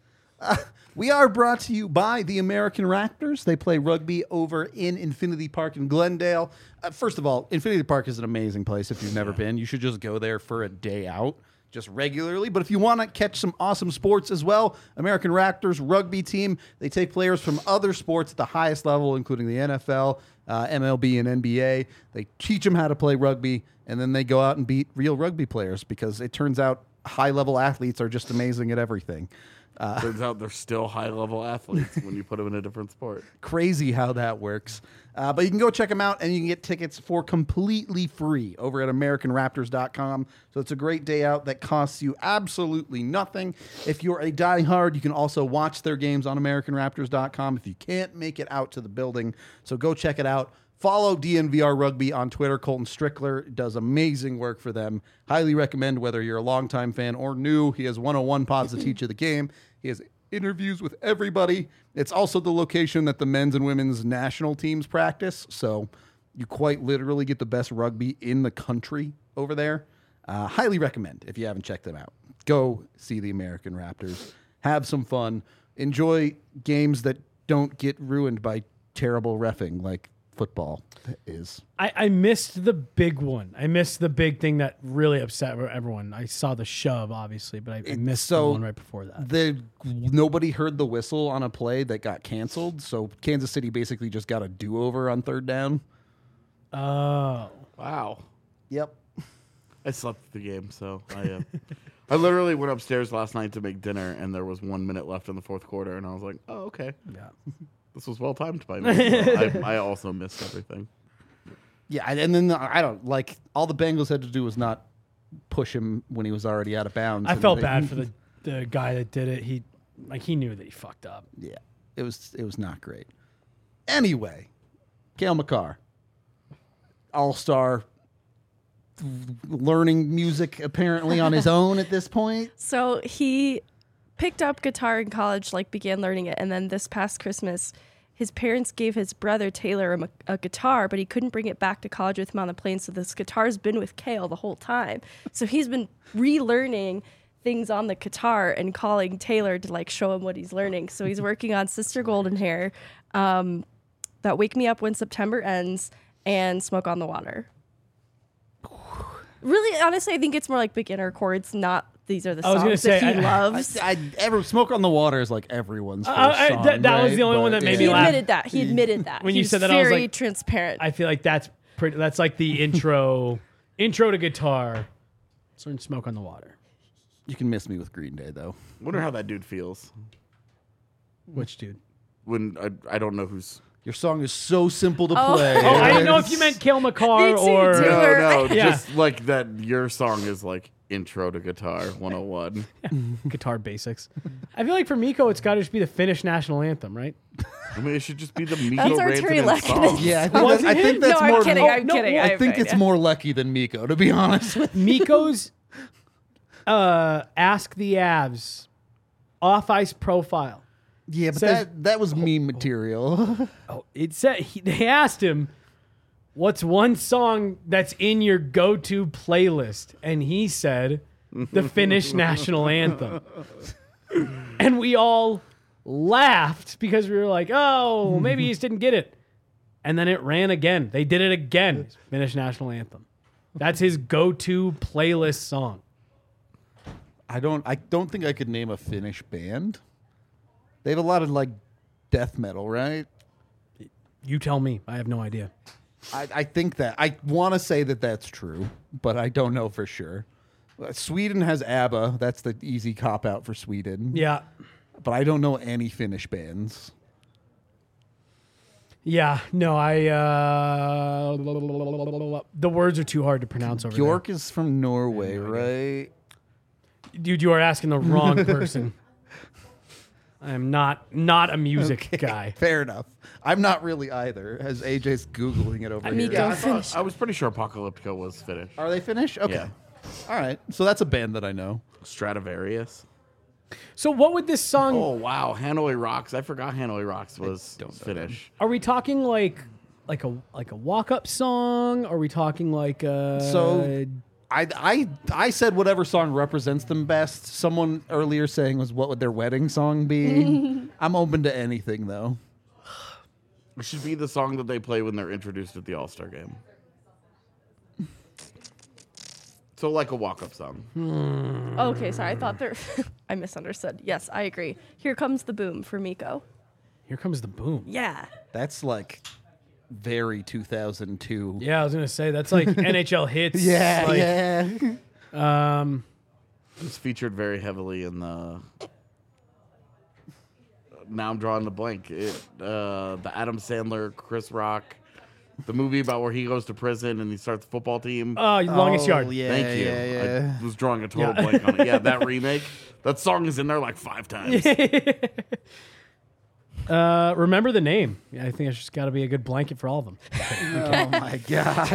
We are brought to you by the American Raptors. They play rugby over in Infinity Park in Glendale. First of all, Infinity Park is an amazing place. If you've never been, you should just go there for a day out, just regularly. But if you want to catch some awesome sports as well, American Raptors rugby team, they take players from other sports at the highest level, including the NFL, MLB, and NBA. They teach them how to play rugby, and then they go out and beat real rugby players because it turns out high-level athletes are just amazing at everything. Turns out they're still high-level athletes when you put them in a different sport. Crazy how that works. But you can go check them out, and you can get tickets for completely free over at AmericanRaptors.com. So it's a great day out that costs you absolutely nothing. If you're a diehard, you can also watch their games on AmericanRaptors.com if you can't make it out to the building. So go check it out. Follow DNVR Rugby on Twitter. Colton Strickler does amazing work for them. Highly recommend whether you're a longtime fan or new. He has 101 pods to teach you the game. He has interviews with everybody. It's also the location that the men's and women's national teams practice. So you quite literally get the best rugby in the country over there. Highly recommend if you haven't checked them out. Go see the American Raptors. Have some fun. Enjoy games that don't get ruined by terrible reffing like football is. I missed the big one. I missed the big thing that really upset everyone. I saw the shove, obviously, but I missed the one right before that. Nobody heard the whistle on a play that got canceled, so Kansas City basically just got a do-over on third down. Oh. Wow. Yep. I slept through the game, so I literally went upstairs last night to make dinner, and there was 1 minute left in the fourth quarter, and I was like, oh, okay. Yeah. This was well timed by me. So I also missed everything. Yeah, and then I don't like all the Bengals had to do was not push him when he was already out of bounds. I felt bad for the guy that did it. He knew that he fucked up. Yeah, it was not great. Anyway, Cale Makar, all-star, learning music apparently on his own at this point. So he picked up guitar in college, like began learning it, and then this past Christmas, his parents gave his brother Taylor a guitar, but he couldn't bring it back to college with him on the plane. So this guitar's been with Cale the whole time. So he's been relearning things on the guitar and calling Taylor to like show him what he's learning. So he's working on Sister Golden Hair, that Wake Me Up When September Ends, and Smoke on the Water. Really, honestly, I think it's more like beginner chords, not these are the I was gonna songs that say, he loves. Smoke on the Water is like everyone's first song, that was right? the only one that made me He laugh. admitted that. He admitted that. When He you was said that, I was very like- transparent. I feel like that's like the intro to guitar. Certain Smoke on the Water. You can miss me with Green Day though. Wonder how that dude feels Which dude? when I don't know who's. Your song is so simple to Oh. play. Oh, I didn't know if you meant Cale Makar Me too, or dude. No, Yeah. just like that. Your song is like intro to guitar 101. guitar basics. I feel like for Miko, it's got to just be the Finnish national anthem, right? I mean, it should just be the Miko That's our Terry Rantanen Lehkonen. song. Yeah, Was I think it? that's No, more. I'm kidding. I'm no, kidding. I I'm think kidding. it's more lucky than Miko, to be honest with you. Miko's Ask the Avs off ice profile. Yeah, but Says- that was meme material. Oh, it said they asked him, "What's one song that's in your go-to playlist?" And he said, "The Finnish national anthem." And we all laughed because we were like, "Oh, maybe he just didn't get it." And then it ran again. They did it again. Finnish national anthem. That's his go-to playlist song. I don't think I could name a Finnish band. They have a lot of like death metal, right? You tell me. I have no idea. I think that I want to say that that's true, but I don't know for sure. Sweden has ABBA. That's the easy cop out for Sweden. Yeah. But I don't know any Finnish bands. Yeah. No, the words are too hard to pronounce over Bjork is from Norway, right? there. Dude, you are asking the wrong person. I am not a music guy. Fair enough. I'm not really either, as AJ's Googling it over here. Amigo Finnish. I was pretty sure Apocalyptica was Finnish. Are they Finnish? Okay. Yeah. All right. So that's a band that I know. Stradivarius. So what would this song? Oh wow, Hanoi Rocks. I forgot Hanoi Rocks was Finnish. Are we talking like a walk up song? Are we talking like a So I said whatever song represents them best. Someone earlier saying was what would their wedding song be? I'm open to anything though. It should be the song that they play when they're introduced at the All-Star game. So like a walk-up song. Okay, sorry. I thought there. I misunderstood. Yes, I agree. Here Comes the Boom for Miko. Here Comes the Boom? Yeah. That's like very 2002. Yeah, I was gonna say that's like NHL hits. Yeah, like, yeah. It's featured very heavily in the. Now I'm drawing the blank. The Adam Sandler, Chris Rock, the movie about where he goes to prison and he starts the football team. Longest Yard. Yeah, Thank you. Yeah. I was drawing a total blank on it. Yeah, that remake. That song is in there like 5 times. Remember the name. Yeah, I think it's just got to be a good blanket for all of them. Oh my god.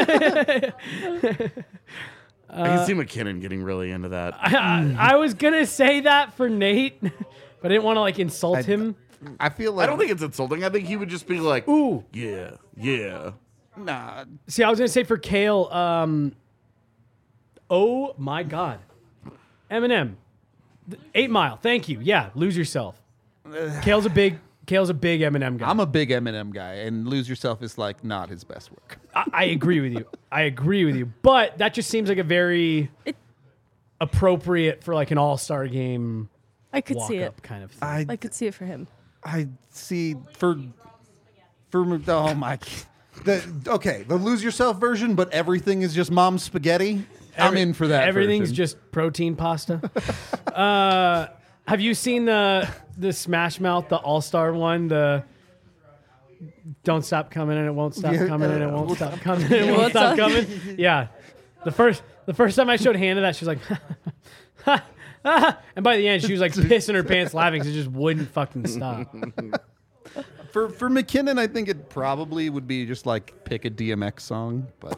I can see McKinnon getting really into that. I was gonna say that for Nate, but I didn't want to like insult him. I feel like I don't think it's insulting. I think he would just be like, Ooh. yeah, yeah. nah. See, I was gonna say for Kale. Oh my God, Eminem, 8 Mile. Thank you. Yeah, Lose Yourself. Kale's a big Eminem guy. I'm a big Eminem guy, and Lose Yourself is like not his best work. I agree with you. I agree with you. But that just seems like a very appropriate for like an all-star game I could walk see it. up kind of thing. I could see it for him. I see for oh my. The Lose Yourself version, but everything is just mom's spaghetti. I'm in for that. Everything's version. just protein pasta. Have you seen the Smash Mouth, the All-Star one? The Don't Stop Coming and It Won't Stop Coming and It Won't Stop Coming and It Won't Stop Coming. Yeah. The first time I showed Hannah that, she was like, and by the end she was like pissing her pants laughing because it just wouldn't fucking stop. For McKinnon, I think it probably would be just like pick a DMX song, but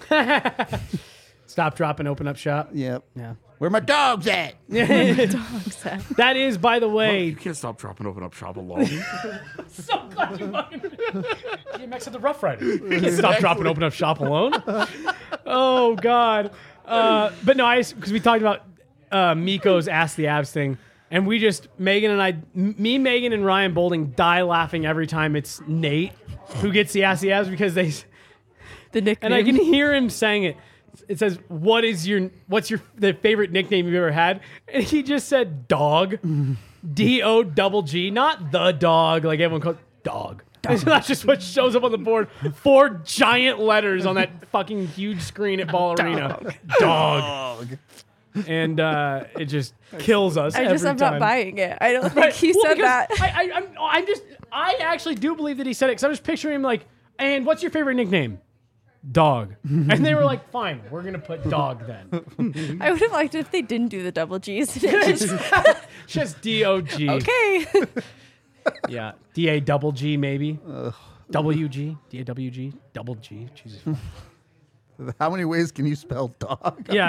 Stop, drop, and open up shop. yep. Yeah. Where my dogs at? Exactly. That is, by the way, You can't stop, dropping, open up shop alone. so glad you fucking DMX at the Rough Riders. You can't stop, drop, and open up shop alone. Oh God. But no, because we talked about Miko's Ask the Abs thing, and we just Megan, and Ryan Bolding die laughing every time it's Nate who gets the Ask the Abs because the nickname. and I can hear him saying it. It says, what's the favorite nickname you've ever had? And he just said dog. D-O-double-G, not the dog like everyone calls dog. That's just what shows up on the board. 4 giant letters on that fucking huge screen at Ball Arena. Dog. And it just kills us. I'm every not time. buying it. I don't think Right. he Well, said because that. I actually do believe that he said it because I was picturing him like, and what's your favorite nickname? Dog. And they were like, fine, we're going to put dog then. I would have liked it if they didn't do the double G's. And it just, Just D-O-G. okay. Yeah. D-A-double-G maybe. W-G. D-A-W-G. Double G. Jesus. How many ways can you spell dog? Yeah.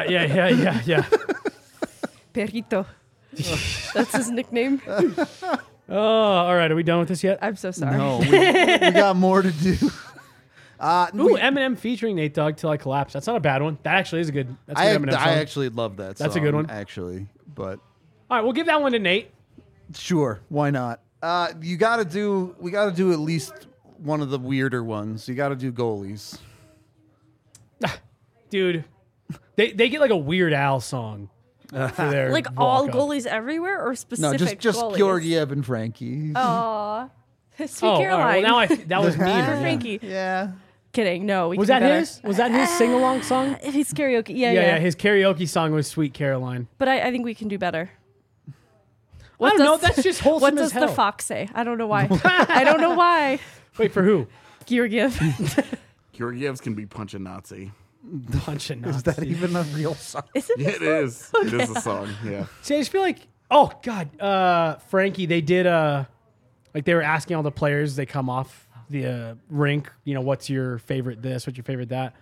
Perrito. That's his nickname. Oh, all right. Are we done with this yet? I'm so sorry. No, we got more to do. Ooh, Eminem featuring Nate Dogg Till I Collapse. That's not a bad one. That actually is a good. That's a good Eminem song. I actually love that song. That's a good one. Actually, but All right, we'll give that one to Nate. sure, why not? We got to do at least one of the weirder ones. You got to do Goalies. Dude, they get like a Weird Al song. for their Like all walk-up. goalies everywhere, or No, specific just goalies? Georgiev and Frankie. Aw. Sweet Oh, all right, Caroline. well, now that was meaner. For yeah. Frankie. Yeah. Kidding. No, we Was can that do better. his? Was that his sing-along song? His karaoke. Yeah, Yeah, yeah. his karaoke song was "Sweet Caroline." But I think we can do better. I don't know. That's just wholesome What as does hell. the fox say? I don't know why. I don't know why. Wait for who? Georgiev. Georgievs can be punch a Nazi. Punch and Is that even a real song? Is it? Yeah, it is. It is a song. Yeah. See, I just feel like, oh god, Frankie. They did like they were asking all the players. They come off the rink. You know, what's your favorite this? What's your favorite that?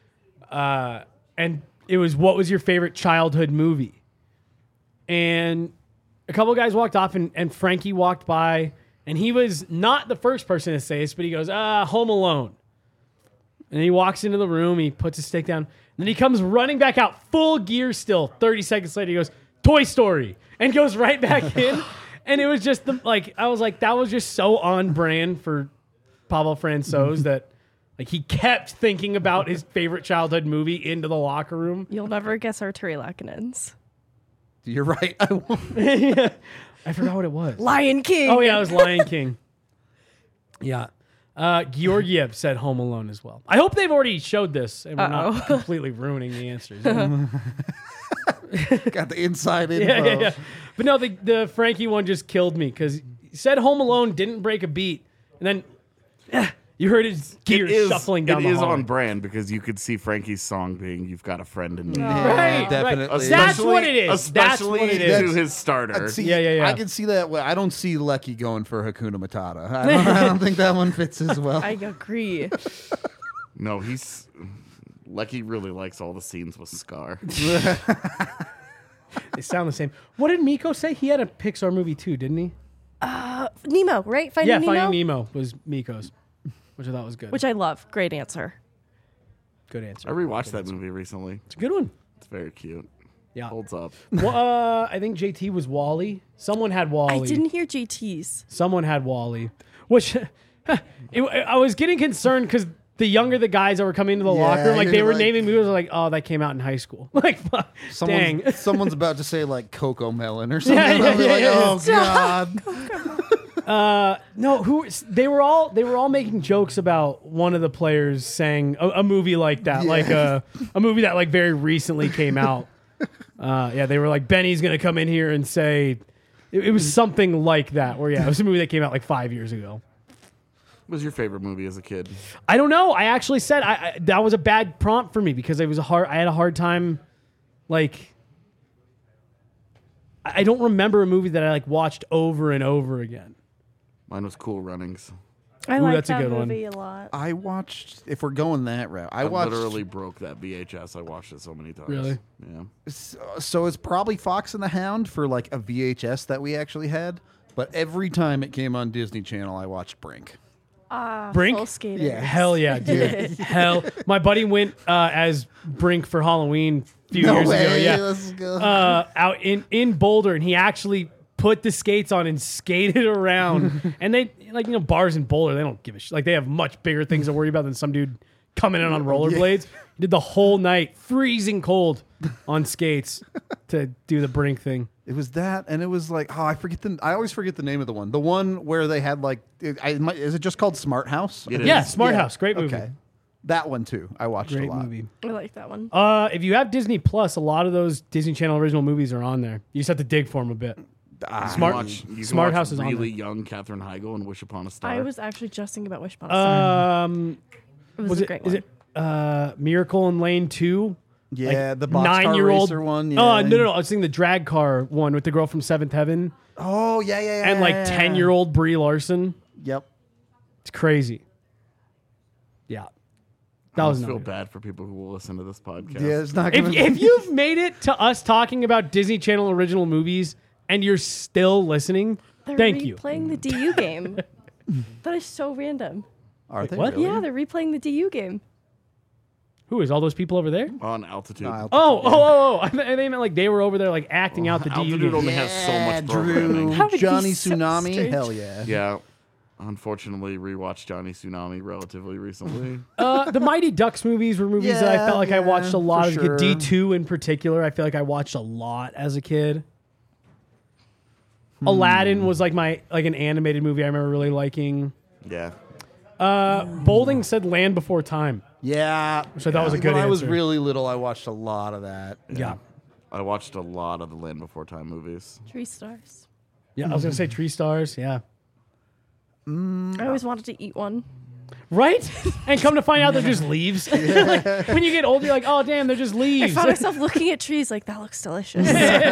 And it was, what was your favorite childhood movie? And a couple guys walked off, and Frankie walked by, and he was not the first person to say this, but he goes, Home Alone. And he walks into the room, he puts his stick down, and then he comes running back out, full gear still. 30 seconds later, he goes, Toy Story, and goes right back in. And it was just I was like, that was just so on brand for Pavel Francouz that like he kept thinking about his favorite childhood movie into the locker room. You'll never guess Arturi Lakinen's. You're right. I won't. Yeah. I forgot what it was. Lion King. Oh yeah, it was Lion King. Yeah. Georgiev said Home Alone as well. I hope they've already showed this and we're not completely ruining the answers. Got the inside info. Yeah. But no, the Frankie one just killed me because he said Home Alone, didn't break a beat, and then you heard his gears shuffling down the It is hallway. on brand because you could see Frankie's song being "You've Got a Friend in Me." Right, Definitely. right. That's what it is. That's Especially what it to is. his starter. See, Yeah. I can see that. Well, I don't see Lecky going for Hakuna Matata. I don't think that one fits as well. I agree. No, Lecky really likes all the scenes with Scar. They sound the same. What did Miko say? He had a Pixar movie too, didn't he? Nemo, right? Finding Nemo? Finding Nemo was Miko's, which I thought was good. Which I love. Great answer. Good answer. I rewatched that movie recently. It's a good one. It's very cute. Yeah. Holds up. Well, I think JT was Wally. Someone had Wally. I didn't hear GT's. Someone had Wally, which I was getting concerned because the younger the guys that were coming into the locker room, like you're they were like- naming movies, like, oh, that came out in high school. Like, fuck, dang. Someone's about to say like Coco Melon or something. Yeah, I'll be like, yeah. oh god. No, they were all making jokes about one of the players saying a movie like that, Yeah. like a movie that like very recently came out. They were like, Benny's gonna come in here and say it was something like that. Where it was a movie that came out like 5 years ago. What was your favorite movie as a kid? I don't know. I actually said that was a bad prompt for me because I had a hard time, like. I don't remember a movie that I like watched over and over again. Mine was Cool Runnings. I Ooh, like that's a that good one. movie a lot. I watched. If we're going that route, I I watched. literally broke that VHS. I watched it so many times. Really? Yeah. So it's probably Fox and the Hound for like a VHS that we actually had. But every time it came on Disney Channel, I watched Brink. Brink? Full Skaters. Yeah. Hell yeah, dude. Hell. My buddy went as Brink for Halloween a few years ago. Yeah. Let's go. Out in Boulder, and he actually put the skates on and skated around. And they, like, bars in Boulder, they don't give a shit. Like, they have much bigger things to worry about than some dude coming in on rollerblades. He did the whole night, freezing cold, on skates to do the Brink thing. It was that, and it was like, I always forget the name of the one. The one where they had like, is it just called Smart House? It is. Yeah, Smart Yeah. House. Great movie. Okay, that one too. I watched Great a lot. movie. I like that one. If you have Disney Plus, a lot of those Disney Channel original movies are on there. You just have to dig for them a bit. Smart You can Smart watch House is on really there. young Katherine Heigl and Wish Upon a Star. I was actually just thinking about Wish Upon a Star. It was a great is one. it Miracle in Lane 2? Yeah, the boxcar 9-year-old racer one. Oh, Yeah. no. I was thinking the drag car one with the girl from Seventh Heaven Oh, yeah. and like 10-year-old Brie Larson. Yep. It's crazy. Yeah. That I was feel not good. bad for people who will listen to this podcast. Yeah, it's not If, gonna. if you've made it to us talking about Disney Channel original movies and you're still listening, They're thank you. replaying the DU game. That is so random. Are they what? really? Yeah, they're replaying the DU game. Who is all those people over there? On Altitude. No, Oh! I they meant like they were over there like acting out the DU Altitude game. only has so much Drew, programming. That would be Johnny so Tsunami. strange. Hell yeah. Yeah. Unfortunately, rewatched Johnny Tsunami relatively recently. The Mighty Ducks movies were movies that I felt like I watched a lot as a for kid. D2 in particular, I feel like I watched a lot as a kid. Aladdin was like an animated movie I remember really liking. Yeah. Bowling said Land Before Time. Yeah. Which I thought was a good When I was answer. really little, I watched a lot of that. Yeah. I watched a lot of the Land Before Time movies. 3 stars. Yeah, I was going to say Tree Stars. Yeah. I always wanted to eat one. Right? And come to find out they're just leaves. Like, when you get older, you're like, oh, damn, they're just I leaves. found myself looking at trees like, that looks delicious.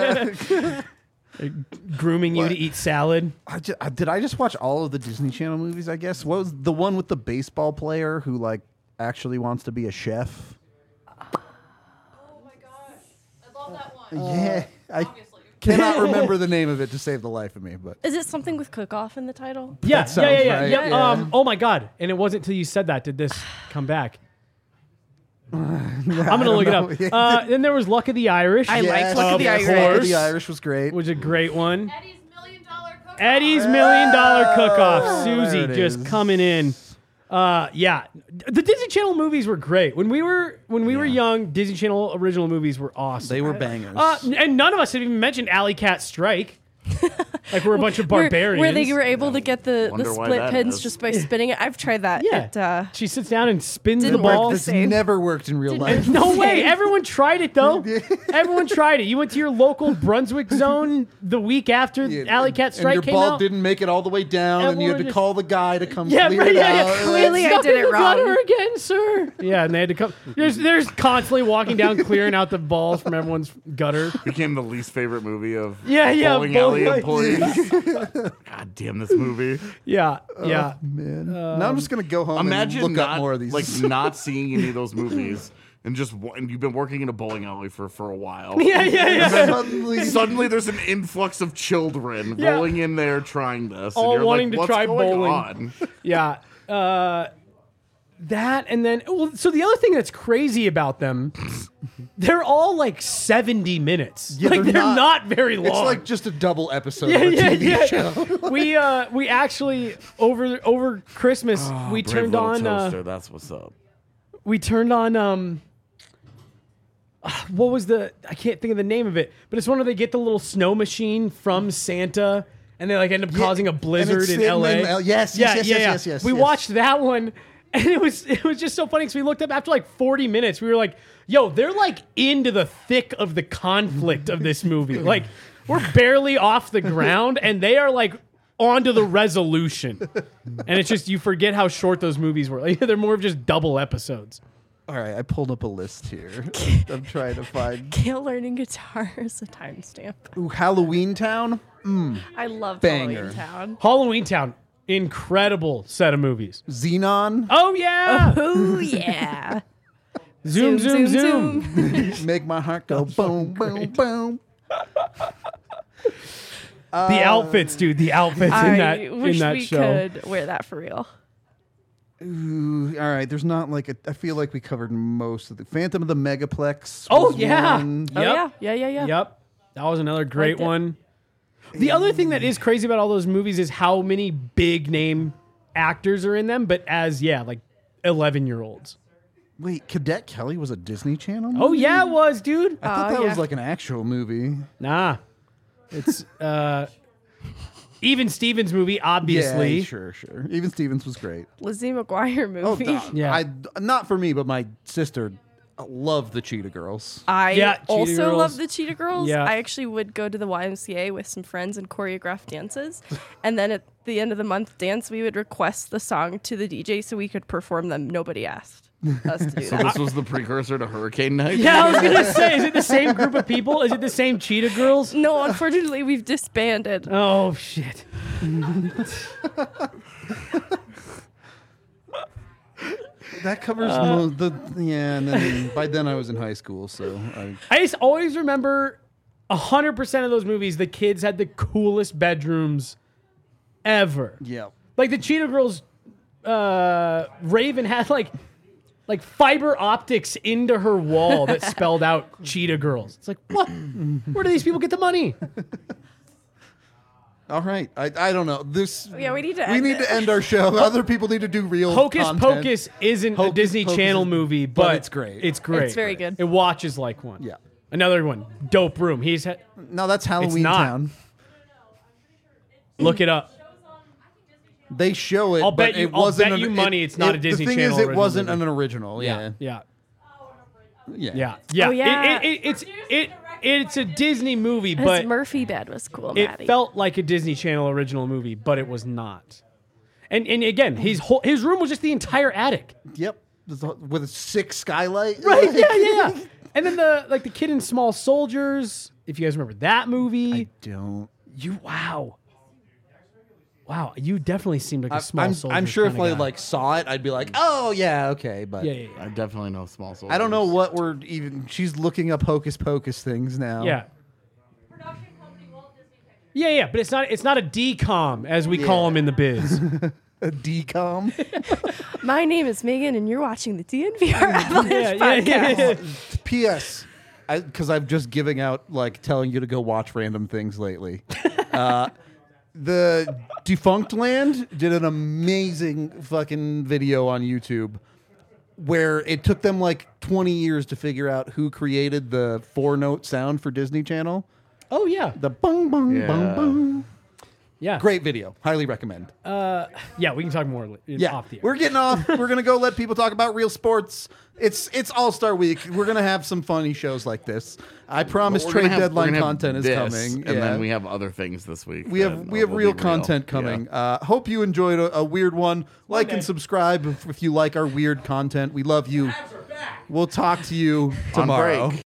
Grooming you to eat salad. Did I just watch all of the Disney Channel movies, I guess? What was the one with the baseball player who, like, actually wants to be a chef? Oh my gosh. I love that one. Yeah. I Obviously. cannot remember the name of it to save the life of me, but Is it something with cook-off in the title? Yeah, That sounds yeah. right, Yep. yeah. Oh, my God. And it wasn't until you said that did this come back. I'm going to look it up. Then there was Luck of the Irish. I liked Luck of the Of Irish. Luck of course. the Irish was great. was a great one. Eddie's $1 Million Cook-Off. Eddie's $1 Million Cook-Off. there Susie it just is. coming in. Yeah, the Disney Channel movies were great. When we were young, Disney Channel original movies were awesome. They were bangers. And none of us have even mentioned Alley Cat Strike. Like we're a bunch of barbarians. Where they were able to get the Wonder why split that pins is. just by spinning it. I've tried that. Yeah. It, She sits down and spins the Didn't work ball. the this same. never worked in real life. No way. Everyone tried it though. Everyone tried it. You went to your local Brunswick zone the week after Alley Cat Strike and your came ball out. didn't make it all the way down, and you Everyone had to just- call the guy to come Yeah, clear right. it Yeah, out. yeah. Clearly It's I stuck did in it the gutter wrong. again, sir. Yeah, and they had to come. There's constantly walking down, clearing out the balls from everyone's gutter. Became the least favorite movie of Yeah, yeah, bowling alley bowling employees. God damn this movie. Yeah, yeah. Man. now I'm just gonna go home Imagine and look not up more of these. like not seeing any of those movies and and you've been working in a bowling alley for a while. Yeah. Suddenly, There's an influx of children Yeah. rolling in there trying this. All and you're wanting like, to What's try going bowling. on? Yeah. That and then so the other thing that's crazy about them, they're all like 70 minutes. Yeah, like they're they're not- not very long. it's like just a double episode yeah, of a yeah, TV yeah. show. We actually over Christmas we Brave turned Little on Toaster, that's what's up. we turned on what was I can't think of the name of it, but it's one where they get the little snow machine from Santa and they like end up causing a blizzard it's in in LA. yes, yes. We watched that one and it was just so funny because we looked up after like 40 minutes. We were like, yo, they're like into the thick of the conflict of this movie. Like we're barely off the ground and they are like onto the resolution. And it's just, you forget how short those movies were. Like, they're more of just double episodes. All right, I pulled up a list here. I'm trying to find. Gail learning guitar is a timestamp. Ooh, Halloween Town. I love Banger. Halloween Town. Halloween Town, incredible set of movies. Xenon. Oh yeah, Oh yeah. zoom, zoom, zoom. Make my heart go boom, boom, boom. The outfits, dude. The outfits I wish in that we show. could wear that for real. Ooh, all right, there's not like I feel like we covered most of the Phantom of the Megaplex. Oh was yeah. one. Oh Yep. yeah. Yep. That was another great Liked it. one. The other thing that is crazy about all those movies is how many big name actors are in them, but as like 11-year-olds. Wait, Cadet Kelly was a Disney Channel movie? Oh yeah, it was, dude. I thought that yeah. was like an actual movie. Nah. It's Even Stevens movie, obviously. Yeah, sure. Even Stevens was great. Lizzie McGuire Oh, movie. Yeah. not for me, but my sister loved the Cheetah Girls. I Yeah, Cheetah also Girls. love the Cheetah Girls. Yeah. I actually would go to the YMCA with some friends and choreograph dances. And then at the end of the month dance, we would request the song to the DJ so we could perform them. Nobody asked us to do So that. this was the precursor to Hurricane Night? Yeah, I was gonna say, is it the same group of people? Is it the same Cheetah Girls? No, unfortunately, we've disbanded. Oh shit. That covers and then by then I was in high school, so I just always remember 100% of those movies, the kids had the coolest bedrooms ever. yeah. Like the Cheetah Girls, Raven had like fiber optics into her wall that spelled out Cheetah Girls. It's like, what? Where do these people get the money? All right. I don't know. Yeah, we need to We end need it. to end our show. Other people need to do real Hocus content. Pocus isn't a Hocus Disney Pocus Channel is- movie, but but it's great. It's great. It's very good. It watches like one. Yeah. Another one, Dope Room. No, that's Halloween not. Town. Look it up. They show it. I'll but bet you- it wasn't I'll bet you money it's not a Disney The thing Channel is, it original wasn't movie. an original. Yeah. Yeah. Yeah. Yeah. Yeah. Oh, yeah. It's a Disney movie, His but Murphy bed was cool, it Maddie. felt like a Disney Channel original movie, but it was not. And again, his room was just the entire attic. Yep. With a 6 skylight. Right? Yeah. And then the kid in Small Soldiers. If you guys remember that movie, Don't. wow, you definitely seemed like a Small Soldiers. I'm sure if kinda I guy. like saw it, I'd be like, oh yeah, okay. But yeah. I definitely know Small Soldiers. I don't know what we're even. She's looking up Hocus Pocus things now. Yeah. Production company Walt Disney Pictures. Yeah, but it's not a DCOM as we call them in the biz. A decom. My name is Megan, and you're watching the DNVR Avalanche podcast. P.S. Because I'm just giving out like telling you to go watch random things lately. The Defunct Land did an amazing fucking video on YouTube where it took them like 20 years to figure out who created the 4-note sound for Disney Channel. Oh yeah, The bung bung bung Yeah. bung. yeah, Great video. Highly recommend. Yeah, we can talk more off the air. We're getting off. We're gonna go let people talk about real sports. It's All-Star Week. We're gonna have some funny shows like this. I promise. We're Trade gonna have- deadline we're gonna have content is this, coming, and yeah. then we have other things this week. We have real content coming. Hope you enjoyed a weird one. Like and subscribe if you like our weird content. We love you. We'll talk to you tomorrow. break.